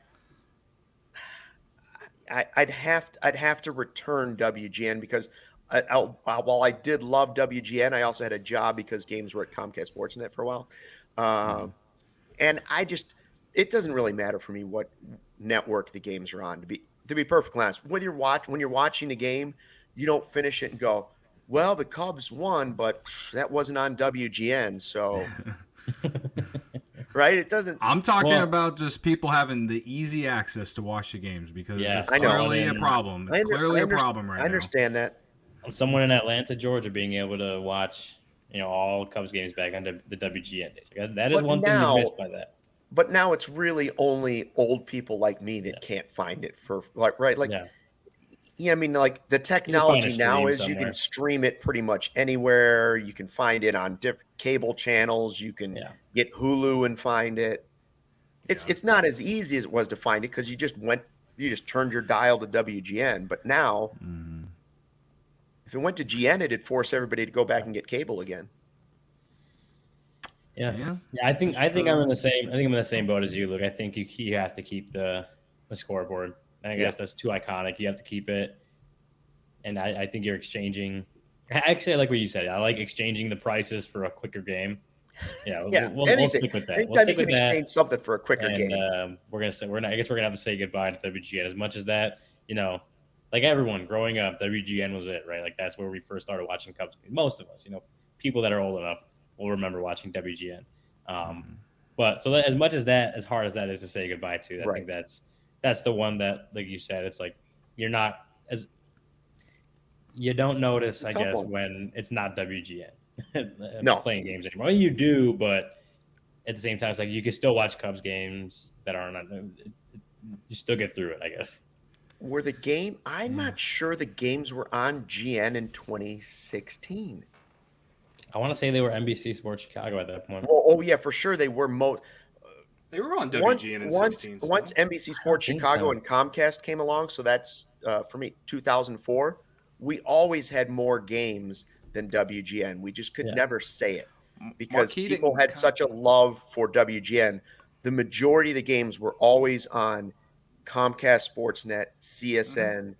I, I'd have to, I'd have to return W G N because I, I, while I did love W G N, I also had a job because games were at Comcast Sportsnet for a while, um, mm-hmm. and I just it doesn't really matter for me what network the games are on. To be to be perfectly honest, whether you're watch when you're watching a game, you don't finish it and go, well, the Cubs won, but that wasn't on W G N, so. Right? It doesn't. I'm talking well, about just people having the easy access to watch the games because yeah, it's clearly a problem. It's under, clearly under, a problem right now. I understand now. that. Someone in Atlanta, Georgia, being able to watch, you know, all Cubs games back on the W G N days. That is but one now, thing you missed by that. But now it's really only old people like me that yeah. can't find it for like right like. Yeah. Yeah, I mean, like the technology now is somewhere. You can stream it pretty much anywhere. You can find it on different cable channels. You can yeah. get Hulu and find it. It's yeah. it's not as easy as it was to find it because you just went, you just turned your dial to W G N. But now, mm-hmm. if it went to G N, it'd force everybody to go back and get cable again. Yeah, yeah. yeah I think That's I think true. I'm in the same. I think I'm in the same boat as you, Luke. I think you you have to keep the the scoreboard. I guess yeah. that's too iconic. You have to keep it. And I, I think you're exchanging. Actually, I like what you said. I like exchanging the prices for a quicker game. Yeah, we'll, yeah. We'll, we'll stick with that. Anytime we'll stick you can with exchange that. something for a quicker and, game. Um, we're gonna say we're not. I guess we're gonna have to say goodbye to W G N. As much as that, you know, like everyone growing up, W G N was it, right? Like that's where we first started watching Cubs. Most of us, you know, people that are old enough will remember watching W G N. Um, but so that, as much as that, as hard as that is to say goodbye to, I right. think that's. That's the one that, like you said, it's like you're not as you don't notice, I guess, one. when it's not W G N no. playing games anymore. Well, you do, but at the same time, it's like you can still watch Cubs games that aren't. You still get through it, I guess. Were the game? I'm not sure the games were on G N in twenty sixteen. I want to say they were N B C Sports Chicago at that point. Oh, oh yeah, for sure they were. Mo- They were on W G N in once, sixteen. Once N B C Sports Chicago so. and Comcast came along, so that's, uh, for me, two thousand four, we always had more games than W G N. We just could yeah. never say it because Marquette people had Com- such a love for W G N. The majority of the games were always on Comcast Sportsnet, C S N, mm-hmm.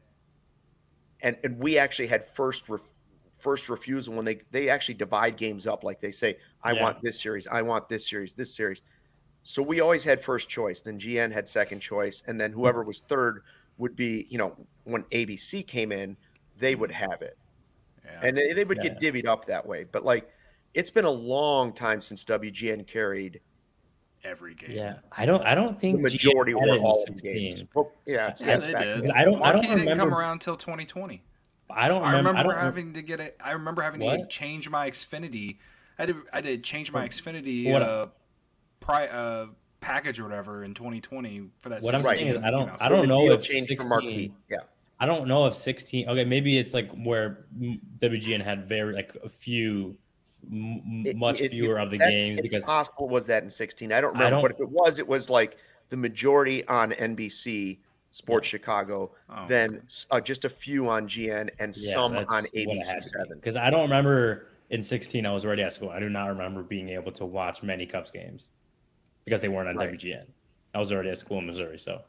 and, and we actually had first ref- first refusal when they, they actually divide games up. Like they say, I yeah. want this series, I want this series, this series. So we always had first choice. Then G N had second choice. And then whoever was third would be, you know, when A B C came in, they would have it. Yeah. And they, they would yeah. get divvied up that way. But, like, it's been a long time since W G N carried every game. Yeah. I don't I don't think the majority were all of the games. Well, yeah, yeah, they did. I don't, I don't remember. Didn't come around until twenty twenty. I don't remember, I remember I don't having to get it. I remember having what? to change my Xfinity. I did, I did change my Xfinity. What? Uh, Pri- uh, package or whatever in twenty twenty for that. What I'm saying is, I don't, I don't know if sixteen. Yeah, I don't know if sixteen. Okay, maybe it's like where W G N had very like a few, m- it, much it, fewer it, of the that, games because possible was that in sixteen. I don't remember, I don't, but if it was, it was like the majority on N B C Sports yeah. Chicago, oh, then okay. uh, just a few on G N and yeah, some on A B C seven. Because I don't remember. In sixteen, I was already at school. I do not remember being able to watch many Cubs games because they weren't on right. W G N. I was already at school in Missouri, so,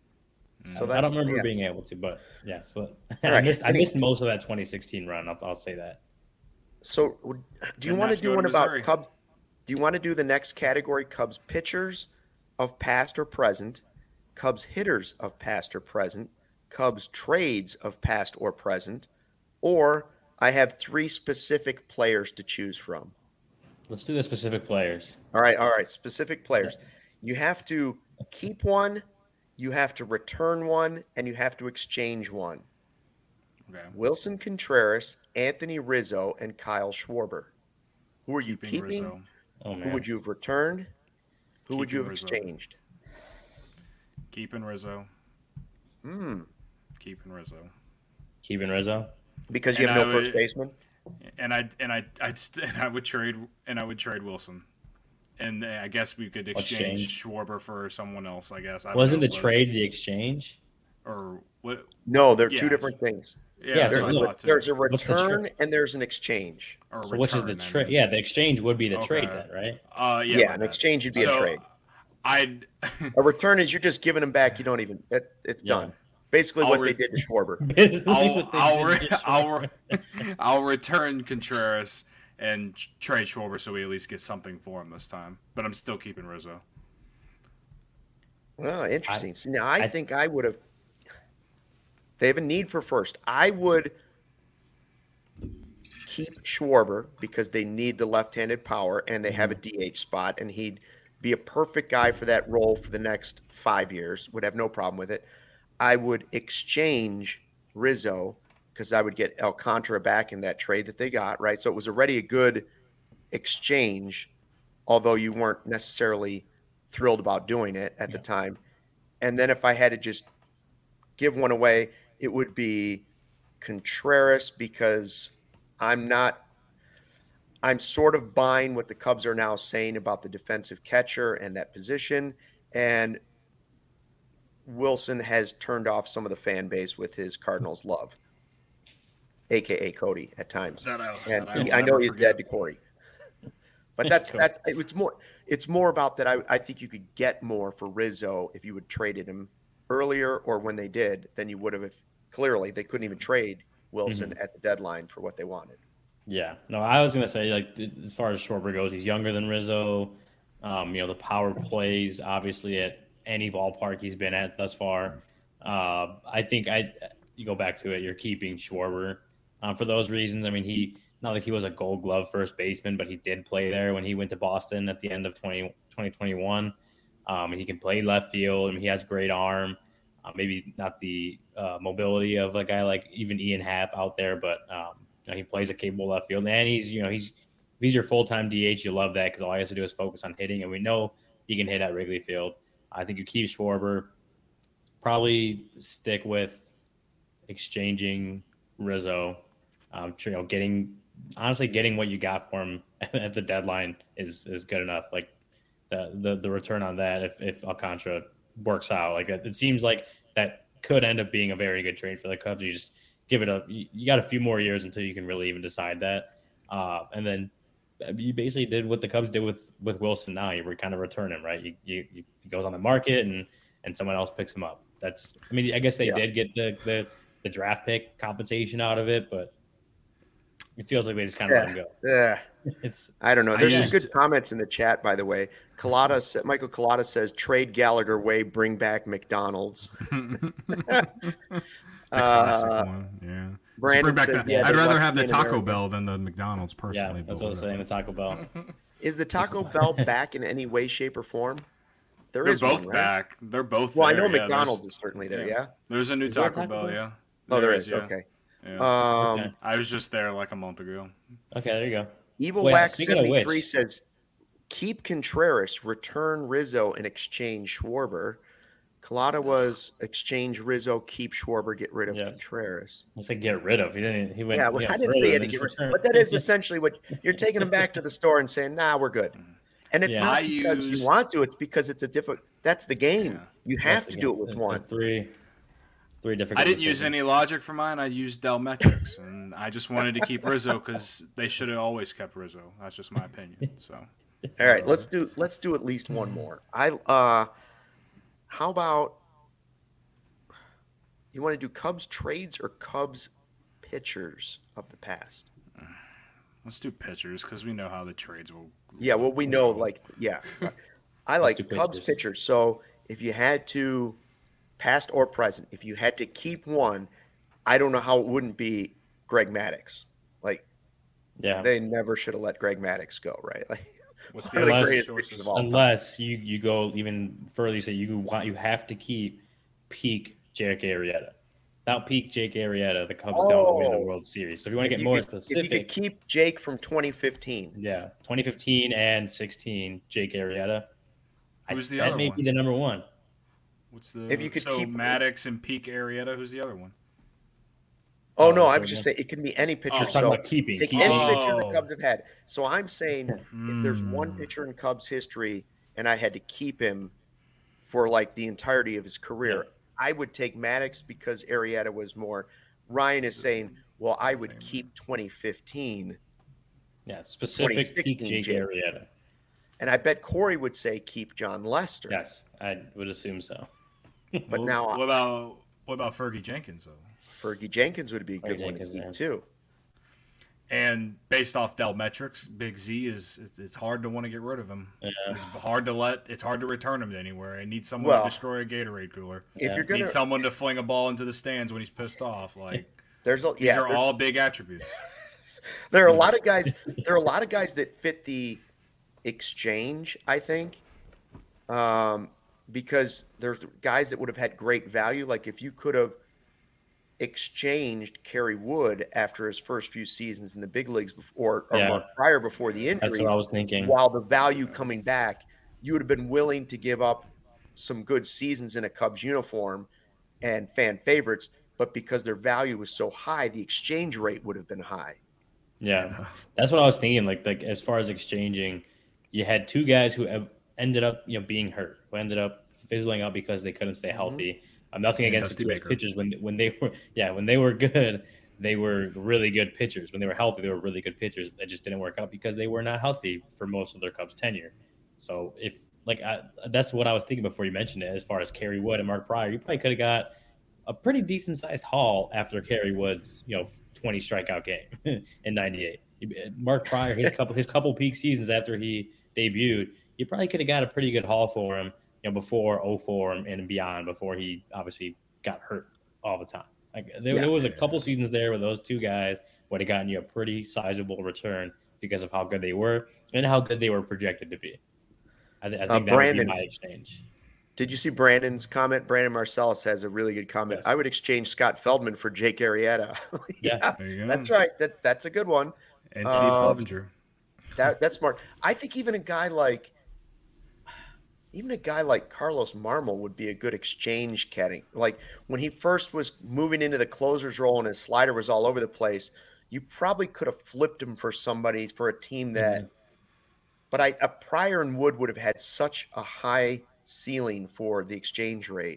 so I don't remember yeah. being able to. But yeah, so right. I missed I missed most of that twenty sixteen run. I'll, I'll say that. So, do you want to do one about Cubs? Do you want to do the next category? Cubs pitchers of past or present, Cubs hitters of past or present, Cubs trades of past or present, or I have three specific players to choose from. Let's do the specific players. All right, all right. Specific players. You have to keep one, you have to return one, and you have to exchange one. Okay. Wilson Contreras, Anthony Rizzo, and Kyle Schwarber. Who are you keeping? keeping? Oh, man. Who would you have returned? Who keeping would you have Rizzo. exchanged? Keeping Rizzo. Hmm. Keeping Rizzo. Keeping Rizzo. Because you And have no I would- first baseman. And I and I I'd st- and I would trade and I would trade Wilson. And I guess we could exchange Exchange. Schwarber for someone else. I guess I don't Wasn't know the what- trade the exchange? or what? No, they're Yeah. two different things. Yeah, Yeah, that's so what I There's, a, thought too. there's a What's the return tra- and there's an exchange. Or So which is the return, I trade? mean. Yeah, the exchange would be the trade Okay. then, right? Uh, yeah, Yeah, my an bad. exchange would be So, a trade. I'd A return is you're just giving them back. You don't even. It, it's Yeah. done. Basically, I'll what re- they did to Schwarber. Basically I'll what they I'll, did re- to I'll, Schwarber. re- I'll return Contreras and tr- trade Schwarber so we at least get something for him this time. But I'm still keeping Rizzo. Oh, interesting. See, now I, I- think I would have. They have a need for first. I would keep Schwarber because they need the left-handed power and they have a D H spot, and he'd be a perfect guy for that role for the next five years. Would have no problem with it. I would exchange Rizzo because I would get Alcantara back in that trade that they got, right? So it was already a good exchange, although you weren't necessarily thrilled about doing it at the time. And then if I had to just give one away, it would be Contreras because I'm not – I'm sort of buying what the Cubs are now saying about the defensive catcher and that position. And Wilson has turned off some of the fan base with his Cardinals love, a k a. Cody at times. That I, And that I, he, will I know never he's forget. dead to Corey. But that's that's it's more it's more about that I, I think you could get more for Rizzo if you would traded him earlier or when they did than you would have if clearly they couldn't even trade Wilson Mm-hmm. at the deadline for what they wanted. Yeah, no, I was gonna say like th- as far as Schwarber goes, he's younger than Rizzo. Um, you know, the power plays obviously at any ballpark he's been at thus far. Uh, I think I you go back to it, you're keeping Schwarber um, for those reasons. I mean, he not like he was a Gold Glove first baseman, but he did play there when he went to Boston at the end of twenty twenty-one. Um, and he can play left field. I mean, he has great arm. Uh, maybe not the uh, mobility of a guy like even Ian Happ out there, but um, you know, he plays a capable left field, and he's you know he's he's your full time D H. You love that because all he has to do is focus on hitting, and we know he can hit at Wrigley Field. I think you keep Schwarber. Probably stick with exchanging Rizzo. Um, you know, getting honestly getting what you got for him at the deadline is is good enough. Like the the, the return on that, if if Alcantara works out, like it seems like that could end up being a very good trade for the Cubs. You just give it a you, you got a few more years until you can really even decide that, uh, and then you basically did what the Cubs did with with Wilson. Now you were kind of return him, right? You, you, you he goes on the market and and someone else picks him up. That's I mean I guess they Yeah. did get the, the the draft pick compensation out of it, but it feels like they just kind of Yeah. let him go. Yeah. It's I don't know. I There's used- some good comments in the chat, by the way. Collada, sa- Michael Collada says, trade Gallagher way, bring back McDonald's. The classic Uh, one, yeah. Just Brandon bring back said, the- yeah, I'd they're rather lucky have the in Taco America. Bell than the McDonald's yeah, personally. that's but what I was saying. The whatever. Taco Bell. Is the Taco Bell back in any way, shape, or form? There They're is both one, right? back. They're both. Well, I there. know Yeah, McDonald's there's- is certainly there, yeah. yeah? There's a new Is there a Taco Taco Bell. Bell? Yeah. Oh, there is. yeah. Okay. Yeah. Um, Okay. I was just there like a month ago. Okay, there you go. Evil Wait, Wax speaking of seventy-three which- says, keep Contreras, return Rizzo, and exchange Schwarber. Collada was exchange Rizzo, keep Schwarber, get rid of Yeah. Contreras. I said get rid of. He didn't. He went. Yeah, well, you know, I didn't further say you had than to get rid just return. but that is essentially what you're taking them back to the store and saying, nah, we're good. And it's Yeah. not I because used- you want to, it's because it's a different, that's the game. Yeah. You That's have the to game. do it with There's one. Three, three different. I didn't use decisions. any logic for mine. I used Dell Metrics, and I just wanted to keep Rizzo because they should have always kept Rizzo. That's just my opinion. So All right, let's do let's do at least one more. I uh how about you want to do Cubs trades or Cubs pitchers of the past? let's do pitchers because we know how the trades will. Yeah, well we know like yeah. I like do Cubs pitchers. pitchers. So if you had to past or present, if you had to keep one, I don't know how it wouldn't be Greg Maddux. Like Yeah. they never should have let Greg Maddux go, right? Like What's one of the Unless- greatest pitchers of all time. Unless you, you go even further, you say you want you have to keep peak Jake Arrieta. Without peak Jake Arrieta, the Cubs don't win the Oh. World Series. So if you want to If get you more could- If you specific, could keep Jake from twenty fifteen. yeah, twenty fifteen and sixteen, Jake Arrieta. I- Who's the that other may one? be the number one. What's the? If you could so keep- Maddox and Peak Arrieta. Who's the other one? Oh, no, I was just saying it can be any pitcher. Oh, so talking about keeping. take keeping. any pitcher the Oh. Cubs have had. So I'm saying if there's one Mm. pitcher in Cubs history and I had to keep him for like the entirety of his career, I would take Maddox because Arrieta was more. Ryan is saying, well, I would keep twenty fifteen. Yeah, specific peak Jake Jake. Arrieta. And I bet Corey would say keep John Lester. Yes, I would assume so. But Well, now what about what about Fergie Jenkins though? Fergie Jenkins would be a good Fergie one to Jenkins, keep yeah. too. And based off Dell metrics, Big Z is it's, it's hard to want to get rid of him. Yeah. It's hard to let. It's hard to return him to anywhere. I need someone Well, to destroy a Gatorade cooler. If Yeah. you're gonna, Need someone to fling a ball into the stands when he's pissed off. Like there's a these yeah, are there's- all big attributes. there are a lot of guys. There are a lot of guys that fit the exchange. I think, um, because there's guys that would have had great value. Like if you could have exchanged Kerry Wood after his first few seasons in the big leagues before, or Yeah. Mark Pryor before the That's injury, what I was thinking. while the value coming back, you would have been willing to give up some good seasons in a Cubs uniform and fan favorites, but because their value was so high, the exchange rate would have been high. Yeah, that's what I was thinking. Like, like as far as exchanging, you had two guys who have ended up, you know, being hurt, who ended up fizzling out because they couldn't stay healthy. I'm nothing Yeah, against Dusty the two Baker. pitchers when when they were, yeah, when they were good, they were really good pitchers. When they were healthy, they were really good pitchers. That just didn't work out because they were not healthy for most of their Cubs tenure. So if like I, that's what I was thinking before you mentioned it. As far as Kerry Wood and Mark Pryor, you probably could have got a pretty decent sized haul after Kerry Wood's, you know, twenty strikeout game in ninety-eight. Mark Pryor, his couple his couple peak seasons after he debuted, you probably could have got a pretty good haul for him, you know, before oh four and beyond, before he obviously got hurt all the time. Like there, Yeah. there was a couple seasons there where those two guys would have gotten you a pretty sizable return because of how good they were and how good they were projected to be. I, th- I think that Brandon. would be my exchange. Did you see Brandon's comment? Brandon Marcellus has a really good comment. Yes. I would exchange Scott Feldman for Jake Arrieta. Yeah. There you go. That's right. That that's a good one. And Steve Um, Clevenger. That that's smart. I think even a guy like even a guy like Carlos Marmol would be a good exchange caddy. Like when he first was moving into the closer's role and his slider was all over the place, you probably could have flipped him for somebody for a team that. But I a Pryor and Wood would have had such a high ceiling for the exchange rate.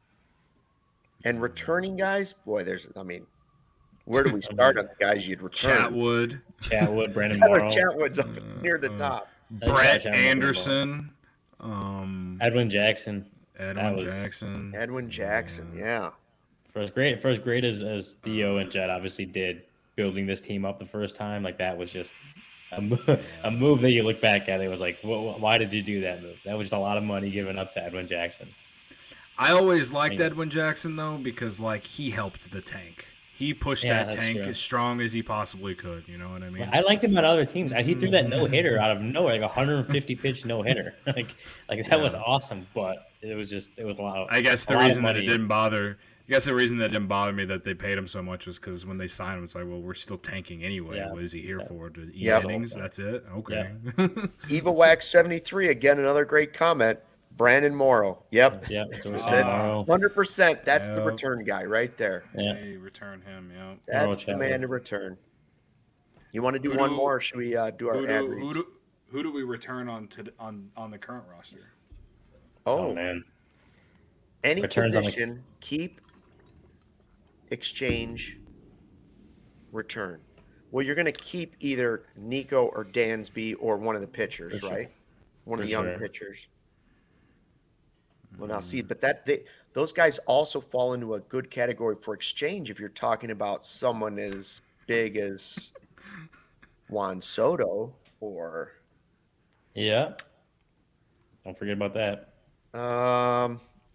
And returning guys, boy, there's I mean, where do we start on the guys you'd return? Chatwood, Chatwood, Brandon Tyler Morrow, Chatwood's up near the uh, top. Brett Chatwood, Anderson, um, Edwin Jackson. Edwin was- Jackson. Edwin Jackson, yeah. For as great, for as great as, as Theo and Jed obviously did building this team up the first time, like that was just a, mo- a move that you look back at. It was like, wh- why did you do that move? That was just a lot of money given up to Edwin Jackson. I always liked Yeah. Edwin Jackson though because like he helped the tank. He pushed Yeah, that that's tank true. as strong as he possibly could. You know what I mean? I liked him on other teams. He threw that no hitter out of nowhere, like a one hundred fifty pitch no hitter. like, like that was Yeah. awesome. But it was just, it was a lot. Of, I guess a the lot of reason that it money. didn't bother. I guess the reason that didn't bother me that they paid him so much was because when they signed him, it's like, well, we're still tanking anyway. Yeah. What is he here Yeah. for? To eat Yep. innings? That's it. Okay. Eva Wax seventy-three, again, another great comment. Brandon Morrow. Yep. Yeah, that's what we're Ah. saying tomorrow. one hundred percent. That's the Yep. return guy right there. Yeah. Hey, return him. Yeah. That's the Chapman. man to return. You want to do Who one do- more, or should we uh, do our Who ad do, reads? who do who do we return on to on on the current roster? Oh, Oh, man. any Returns on the- position, keep, exchange, return. Well, you're going to keep either Nico or Dansby or one of the pitchers, For sure. right? One of For the young sure. pitchers. Well, now see, but that they, those guys also fall into a good category for exchange if you're talking about someone as big as Juan Soto or Yeah. Don't forget about that. um,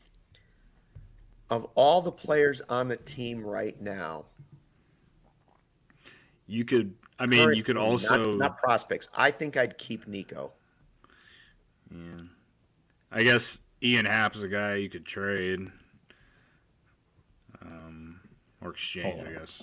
of all the players on the team right now. You could. I mean, you could currently, also. not, not prospects. I think I'd keep Nico. Yeah. I guess Ian Happ's a guy you could trade. Um, or exchange, Oh. I guess.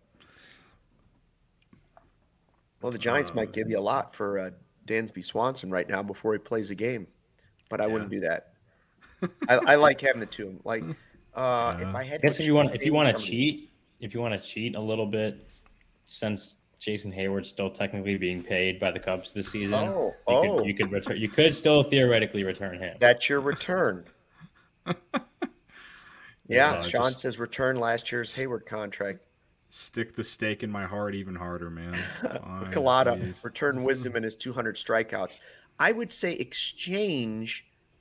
Well, the Giants Um, might give you a lot for uh, Dansby Swanson right now before he plays a game, but I wouldn't do that. I, I like having the two. Like, uh, if I had, I guess to if you want, if exchange you want to somebody- cheat, if you want to cheat a little bit, since Jason Hayward's still technically being paid by the Cubs this season, oh, you, oh. Could, you could return. You could still theoretically return him. That's your return. Yeah, So Sean just says return last year's Hayward contract. stick the stake in my heart even harder, man. Fine, Colada, please. return Wisdom and his two hundred strikeouts. I would say exchange.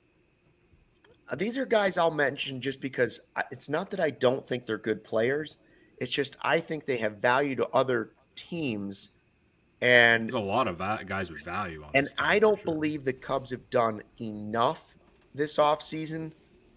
Uh, these are guys I'll mention just because I, it's not that I don't think they're good players. It's just I think they have value to other teams. And There's a lot of va- guys with value on and this team, I for don't sure. believe the Cubs have done enough this offseason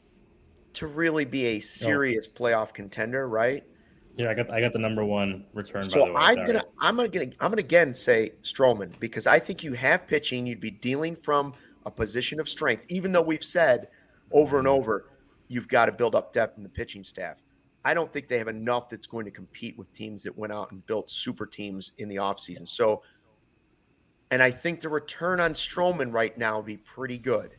to really be a serious playoff contender, right? Yeah, I got I got the number one return. So by the way, I'm sorry. gonna I'm gonna gonna I'm gonna again say Stroman because I think you have pitching. You'd be dealing from a position of strength, even though we've said over and over you've got to build up depth in the pitching staff. I don't think they have enough that's going to compete with teams that went out and built super teams in the offseason. So, and I think the return on Stroman right now would be pretty good.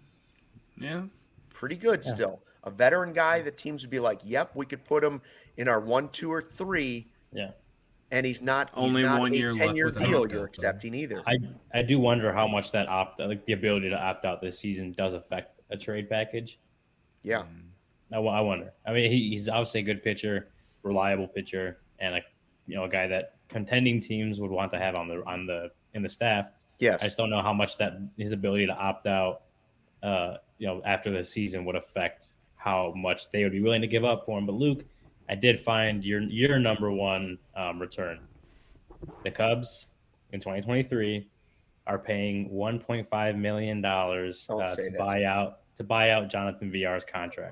Yeah. Pretty good Yeah. still. A veteran guy that teams would be like, yep, we could put him in our one, two, or three. Yeah. And he's not he's Only not one a year left ten-year with an deal opt-out, you're though. accepting either. I I do wonder how much that opt like the ability to opt out this season does affect a trade package. Yeah. I, I wonder. I mean, he, he's obviously a good pitcher, reliable pitcher, and a you know a guy that contending teams would want to have on the on the in the staff. Yes. I just don't know how much that his ability to opt out, uh, you know, after the season would affect how much they would be willing to give up for him. But Luke, I did find your your number one um, return. The Cubs in twenty twenty-three are paying one point five million dollars Don't uh, say to this. buy out to buy out Jonathan Villar's contract.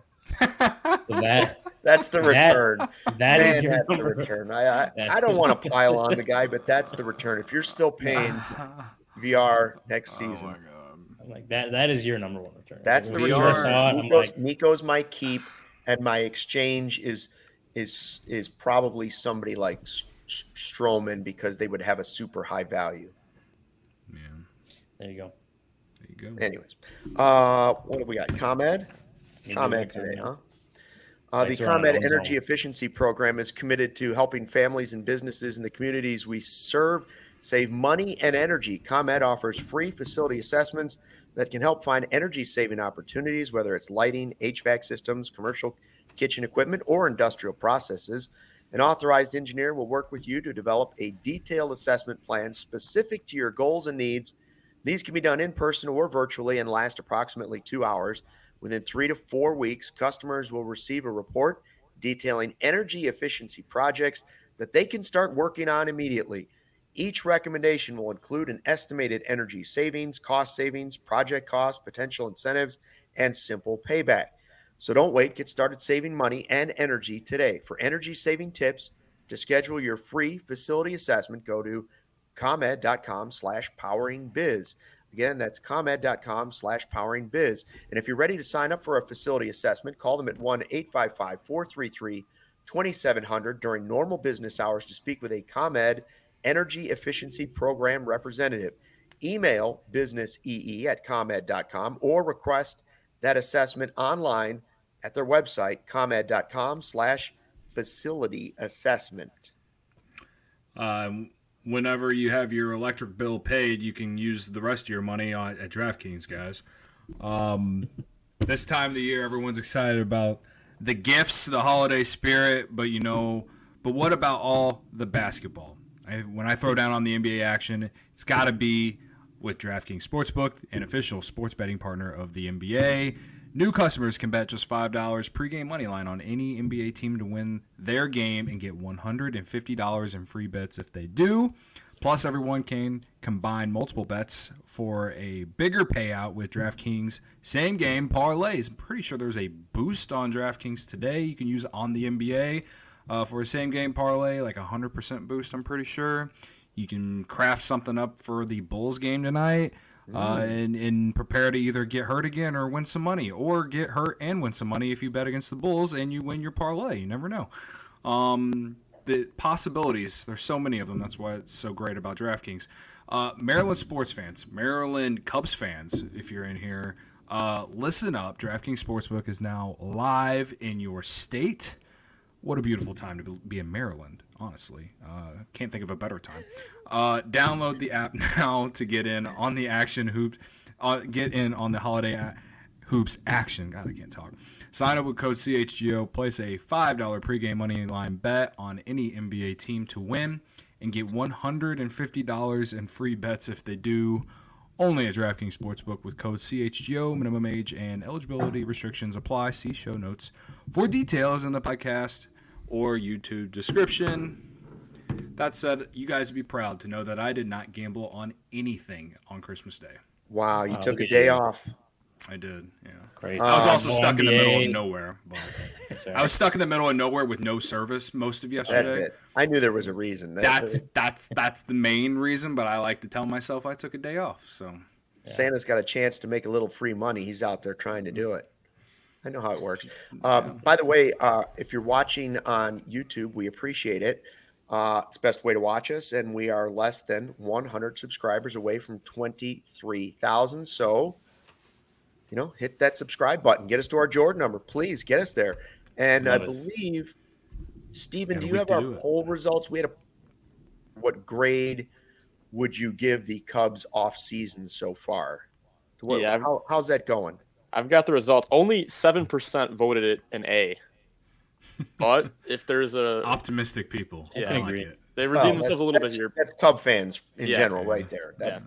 So that That's the that- return. that is Man, your that's the number. return. I, I, That's- I don't want to pile on the guy, but that's the return. If you're still paying V R next Oh season, my god. I'm like that. That is your number one return. that's the When V I R. return. saw it, I'm Nico's, like, Nico's my keep, and my exchange is is is probably somebody like S- S- Stroman because they would have a super high value. Yeah. there you go. There you go. Anyways, uh, what have we got? ComEd? Maybe ComEd we'll today, come huh? in. Uh, the Thanks, Ron. ComEd That was Energy all. Efficiency Program is committed to helping families and businesses in the communities we serve save money and energy. ComEd offers free facility assessments that can help find energy-saving opportunities, whether it's lighting, H V A C systems, commercial kitchen equipment, or industrial processes. An authorized engineer will work with you to develop a detailed assessment plan specific to your goals and needs. These can be done in person or virtually and last approximately two hours. Within three to four weeks, customers will receive a report detailing energy efficiency projects that they can start working on immediately. Each recommendation will include an estimated energy savings, cost savings, project costs, potential incentives, and simple payback. So don't wait. Get started saving money and energy today. For energy saving tips, to schedule your free facility assessment, go to comed.com slash powering biz. Again, that's comed.com slash powering biz. And if you're ready to sign up for a facility assessment, call them at one eight five five, four three three, two seven zero zero during normal business hours to speak with a ComEd Energy Efficiency Program representative. Email businessee at comed dot com or request that assessment online at their website, comed.com slash facility assessment. Um, whenever you have your electric bill paid, you can use the rest of your money on, at DraftKings, guys. Um, this time of the year, everyone's excited about the gifts, the holiday spirit, but you know, but what about all the basketball? I, when I throw down on the N B A action, it's got to be with DraftKings Sportsbook, an official sports betting partner of the N B A. New customers can bet just five dollars pregame money line on any N B A team to win their game and get one hundred fifty dollars in free bets if they do. Plus, everyone can combine multiple bets for a bigger payout with DraftKings same-game parlays. I'm pretty sure there's a boost on DraftKings today. You can use it on the N B A uh, for a same-game parlay, like a one hundred percent boost, I'm pretty sure. You can craft something up for the Bulls game tonight. Uh, and, and prepare to either get hurt again or win some money, or get hurt and win some money if you bet against the Bulls and you win your parlay. You never know. Um, the possibilities, there's so many of them. That's why it's so great about DraftKings. Uh, Maryland sports fans, Maryland Cubs fans, if you're in here, uh, listen up. DraftKings Sportsbook is now live in your state. what a beautiful time to be in Maryland, honestly. Uh, can't think of a better time. Uh, download the app now to get in on the action hoops. Uh, get in on the holiday a- hoops action. God, I can't talk. Sign up with code C H G O. Place a five dollars pregame money line bet on any N B A team to win and get one hundred fifty dollars in free bets if they do. Only at DraftKings Sportsbook with code C H G O. Minimum age and eligibility restrictions apply. See show notes for details in the podcast or YouTube description. That said, you guys would be proud to know that I did not gamble on anything on Christmas Day. Wow, you Oh, took a look at day you. off. I did, yeah. Great. I was Uh, also no stuck in the N B A. middle of nowhere. But I was stuck in the middle of nowhere with no service most of That's yesterday. it. I knew there was a reason. That's that's that's the main reason, but I like to tell myself I took a day off. So Santa's got a chance to make a little free money. He's out there trying to do it. I know how it works. Um, by the way, uh, if you're watching on YouTube, we appreciate it. Uh, it's the best way to watch us, and we are less than one hundred subscribers away from twenty-three thousand. So, you know, hit that subscribe button. Get us to our Jordan number. Please get us there. And Love I us. believe, Steven, Yeah, do you we have do our it. poll results? We had a what grade would you give the Cubs off season so far? What, Yeah, I've- how, how's that going? I've got the results. Only seven percent voted it an A. But if there's a optimistic people. Yeah, I I like agree. it. they Well, redeemed themselves a little bit that's- here. That's Cub fans in Yeah. general, right there. That's,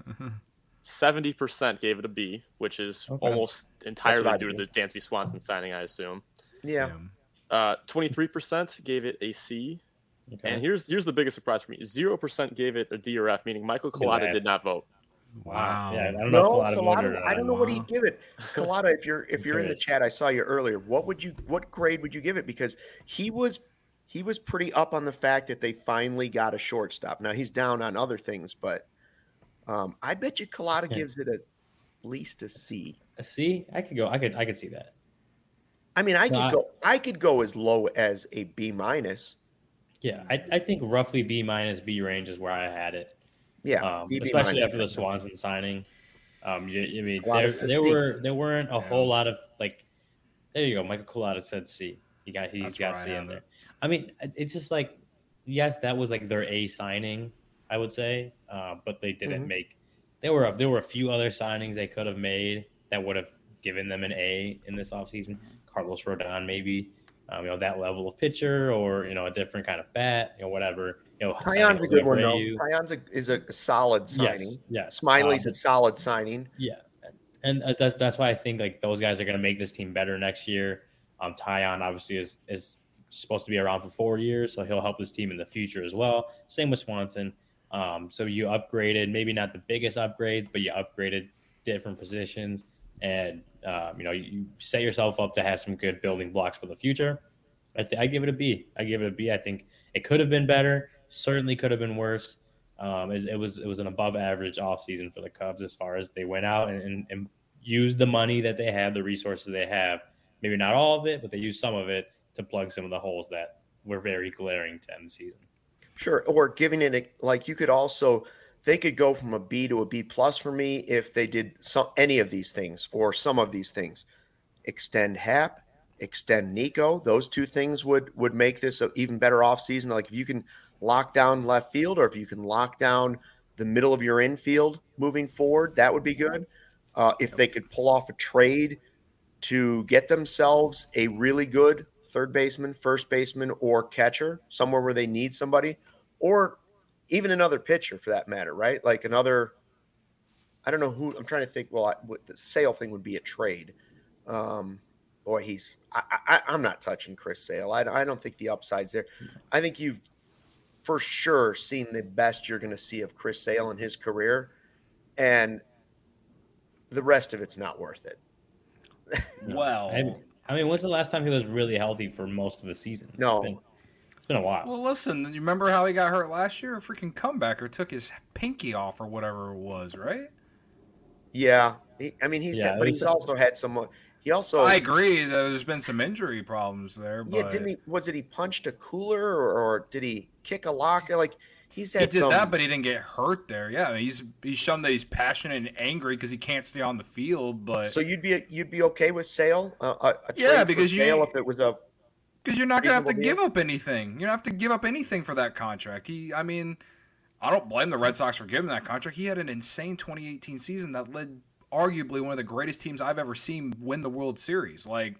seventy percent gave it a B, which is Okay. almost entirely I due to do. the Dansby Swanson signing, I assume. yeah. Uh, twenty-three percent gave it a C. Okay. And here's here's the biggest surprise for me. zero percent gave it a D or F, meaning Michael Look at Collada that. did not vote. Wow. Yeah, I don't know No, if Colada Collada, voted or I don't know not. what he'd give it. Collada, if you're if you're in the curious. chat, I saw you earlier. What would you what grade would you give it? Because he was he was pretty up on the fact that they finally got a shortstop. Now he's down on other things, but um, I bet you Collada Yeah. gives it at least a C. A C? I could go. I could. I could see that. I mean, I could Not- go I could go as low as a B minus. Yeah, I, I think roughly B minus B range is where I had it. Yeah, Um, B, B especially minus. after the Swanson signing. Um, you, I mean, Collada there, said there C. were there weren't a Yeah. whole lot of like. There you go. Michael Collada said C. He got he's That's got where I C in have there. it. I mean, it's just like, yes, that was like their A signing, I would say, uh, but they didn't Mhm. make. There were a, there were a few other signings they could have made that would have given them an A in this offseason. Carlos Rodon, maybe, um, you know, that level of pitcher, or you know, a different kind of bat, you know, whatever. You know, Tyon's signing a Jose good one though. Abreu. Tyon's a, is a solid signing. Yes, yes. Smiley's Um, a solid signing. Yeah, and uh, that's that's why I think like those guys are going to make this team better next year. Um, Tyon obviously is is supposed to be around for four years, so he'll help this team in the future as well. Same with Swanson. Um, so you upgraded, maybe not the biggest upgrades, but you upgraded different positions, and um, you know you, you set yourself up to have some good building blocks for the future. I, th- I give it a B. I give it a B. I think it could have been better. Certainly could have been worse. Um, it, it was it was an above average offseason for the Cubs as far as they went out and, and, and used the money that they have, the resources they have. Maybe not all of it, but they used some of it to plug some of the holes that were very glaring to end the season. Sure. Or giving it a, like you could also they could go from a B to a B plus for me if they did some any of these things or some of these things. Extend Hap, extend Nico. Those two things would would make this an even better offseason. Like if you can lock down left field or if you can lock down the middle of your infield moving forward, that would be good. Uh, if they could pull off a trade to get themselves a really good third baseman, first baseman, or catcher, somewhere where they need somebody, or even another pitcher for that matter, right? Like another, I don't know who, I'm trying to think, well, I, what the Sale thing would be a trade. Um, boy, he's, I, I, I'm not touching Chris Sale. I, I don't think the upside's there. I think you've for sure seen the best you're going to see of Chris Sale in his career, and the rest of it's not worth it. Well, I, I mean, when's the last time he was really healthy for most of the season? No. It's been, it's been a while. well, listen. You remember how he got hurt last year? A freaking comebacker took his pinky off or whatever it was, right? Yeah, he, I mean, he's Yeah, had, but it he's was- also had some. He also, I agree. that There's been some injury problems there, but yeah, didn't he? Was it he punched a cooler or, or did he kick a locker? Like he's he had did some. that, but he didn't get hurt there. Yeah, he's he's shown that he's passionate and angry because he can't stay on the field. But So you'd be you'd be okay with Sale? Uh, a, a Yeah, trade for because you- Sale if it was a Because you're not going to have to Reasonable give deal? up anything. You don't have to give up anything for that contract. He, I mean, I don't blame the Red Sox for giving that contract. He had an insane twenty eighteen season that led arguably one of the greatest teams I've ever seen win the World Series. Like,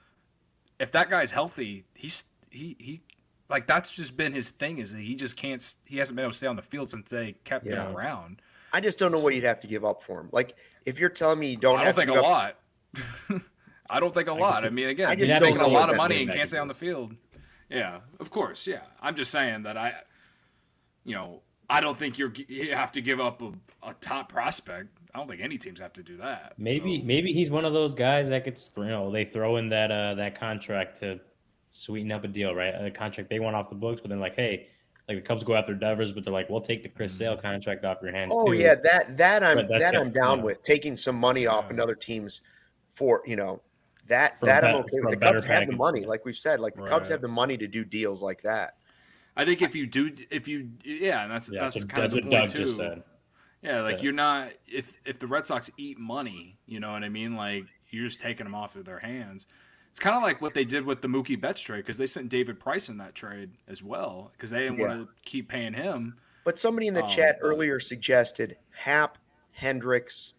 if that guy's healthy, he's he he like that's just been his thing. Is that he just can't. He hasn't been able to stay on the field since they kept Yeah. him around. I just don't know what you'd have to give up for him. Like, if you're telling me you don't, I have don't think to a give up- lot. I don't think a lot. I mean, again, I he's just making don't a know lot what of that money and means. can't stay on the field. Yeah, of course. Yeah, I'm just saying that I, you know, I don't think you're you have to give up a, a top prospect. I don't think any teams have to do that. Maybe So, maybe he's one of those guys that gets you know they throw in that uh, that contract to sweeten up a deal, right? A contract they want off the books, but then like, hey, like the Cubs go after Devers, but they're like, we'll take the Chris Sale contract off your hands Oh too. yeah, that that I'm But that's that got- I'm down yeah. with taking some money off another team's for you know that For a that I'm bet- okay for with. a The better Cubs have the package. money, like we've said. Like the Cubs Right. have the money to do deals like that. I think if you do, if you, yeah, and that's Yeah, that's so kind that's of what the Doug point too. just said. Yeah, like Yeah. you're not if if the Red Sox eat money, you know what I mean? Like you're just taking them off of their hands. It's kind of like what they did with the Mookie Betts trade because they sent David Price in that trade as well because they didn't Yeah. want to keep paying him. But somebody in the Um, chat but- earlier suggested Hap, Hendricks,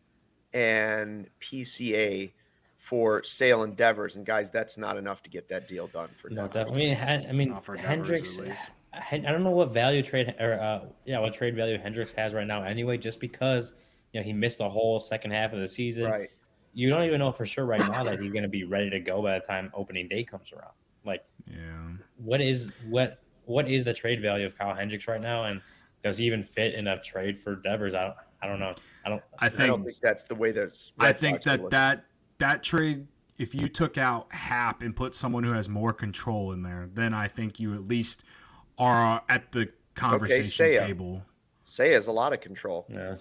and P C A for Sale and Devers, and guys, that's not enough to get that deal done for No, Devers. definitely. I mean, Hen- I mean, Not for Devers, Hendricks. at least. I, I don't know what value trade or uh, yeah, what trade value Hendricks has right now. Anyway, just because you know he missed the whole second half of the season, Right. you don't even know for sure right now that he's going to be ready to go by the time opening day comes around. Like, Yeah. what is what what is the trade value of Kyle Hendricks right now, and does he even fit in a trade for Devers? I don't. I don't know. I don't. I I think don't think that's the way that's. I think that that that trade, if you took out Hap and put someone who has more control in there, then I think you at least are at the conversation Seiya. table. Say has a lot of control. Yeah.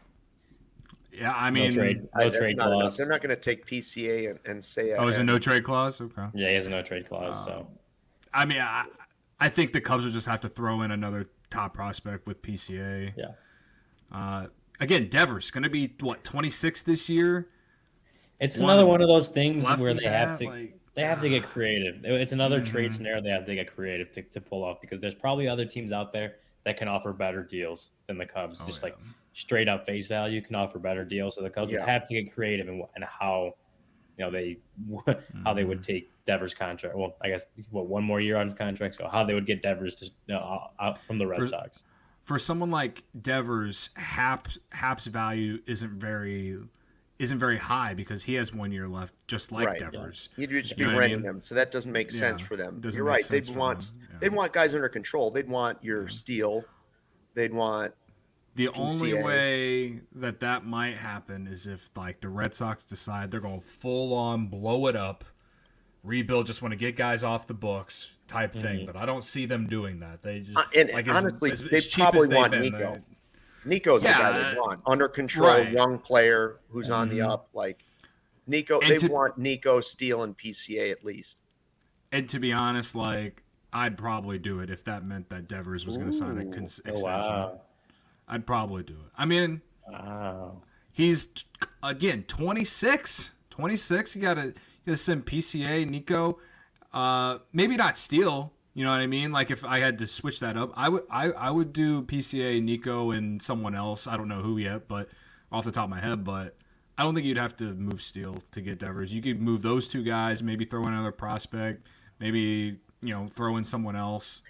Yeah, I No mean, trade. I- No that's trade not enough. clause. They're not going to take P C A and, and say. oh, is it no trade clause? Okay. Yeah, he has a no trade clause. So I mean, I, I think the Cubs will just have to throw in another top prospect with P C A. yeah. Uh, again, Devers going to be what twenty-six this year. It's One another one of those things lefty where they have bat, to like- they have to get creative. It's another trade Mhm. scenario they have to get creative to, to pull off because there's probably other teams out there that can offer better deals than the Cubs. Oh, Just yeah. like straight up face value can offer better deals. So the Cubs Yeah. would have to get creative in, wh- in how you know they how they would take Devers' contract. Well, I guess what one more year on his contract. So how they would get Devers to you know, out from the Red For- Sox. For someone like Devers, Hap Hap's value isn't very isn't very high because he has one year left, just like Right. Devers. You'd just You be know what I renting mean? them, so that doesn't make Yeah, sense for them. doesn't You're make right. sense They'd for want them, yeah. they'd want guys under control. They'd want your Steele. They'd want The only P C A. way that that might happen is if like the Red Sox decide they're going to full on blow it up, rebuild, just want to get guys off the books type thing. But I don't see them doing that. They just Uh, and like, as- honestly, as, they as cheap probably as they've want been, Nico. they- Nico's the guy Yeah, they want. Under control, right. young player who's on the Mhm. up. Like Nico, And they to- want Nico, Steele, and P C A at least. And to be honest, like I'd probably do it if that meant that Devers was going to sign a Ooh. cons- Oh, extension. wow. I'd probably do it. I mean, Wow. he's t- again twenty-six. twenty-six. You gotta you gotta send P C A, Nico. Uh, maybe not Steele. You know what I mean? Like if I had to switch that up, I would I, I would do P C A, Nico, and someone else. I don't know who yet, but off the top of my head, but I don't think you'd have to move Steele to get Devers. You could move those two guys, maybe throw in another prospect, maybe you know throw in someone else.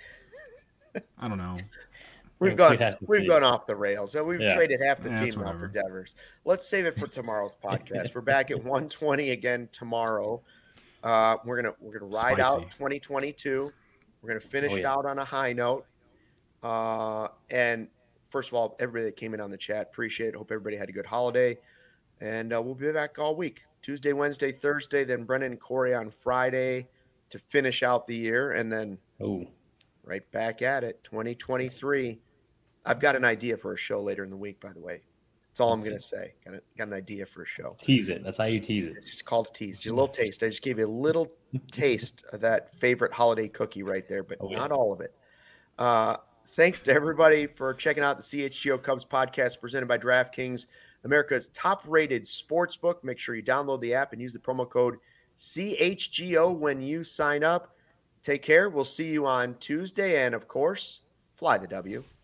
I don't know. We've We'd gone have to we've see. gone off the rails. So we've Yeah. traded half the Yeah, it's team now for whatever. Devers. Let's save it for tomorrow's podcast. We're back at one twenty again tomorrow. Uh, we're gonna we're gonna ride Spicy. out twenty twenty-two. We're gonna finish Oh, it yeah. out on a high note. Uh, and first of all, everybody that came in on the chat, appreciate it. Hope everybody had a good holiday. And uh, we'll be back all week. Tuesday, Wednesday, Thursday, then Brendan and Corey on Friday to finish out the year, and then Oh, right back at it, twenty twenty-three. I've got an idea for a show later in the week, by the way. That's all I'm Let's going to say. Got, a, got an idea for a show. tease it. That's how you tease it. It's just called a tease. Just a little taste. I just gave you a little taste of that favorite holiday cookie right there, but Oh, yeah. not all of it. Uh, thanks to everybody for checking out the C H G O Cubs podcast presented by DraftKings, America's top-rated sports book. Make sure you download the app and use the promo code C H G O when you sign up. Take care. We'll see you on Tuesday. And, of course, fly the W.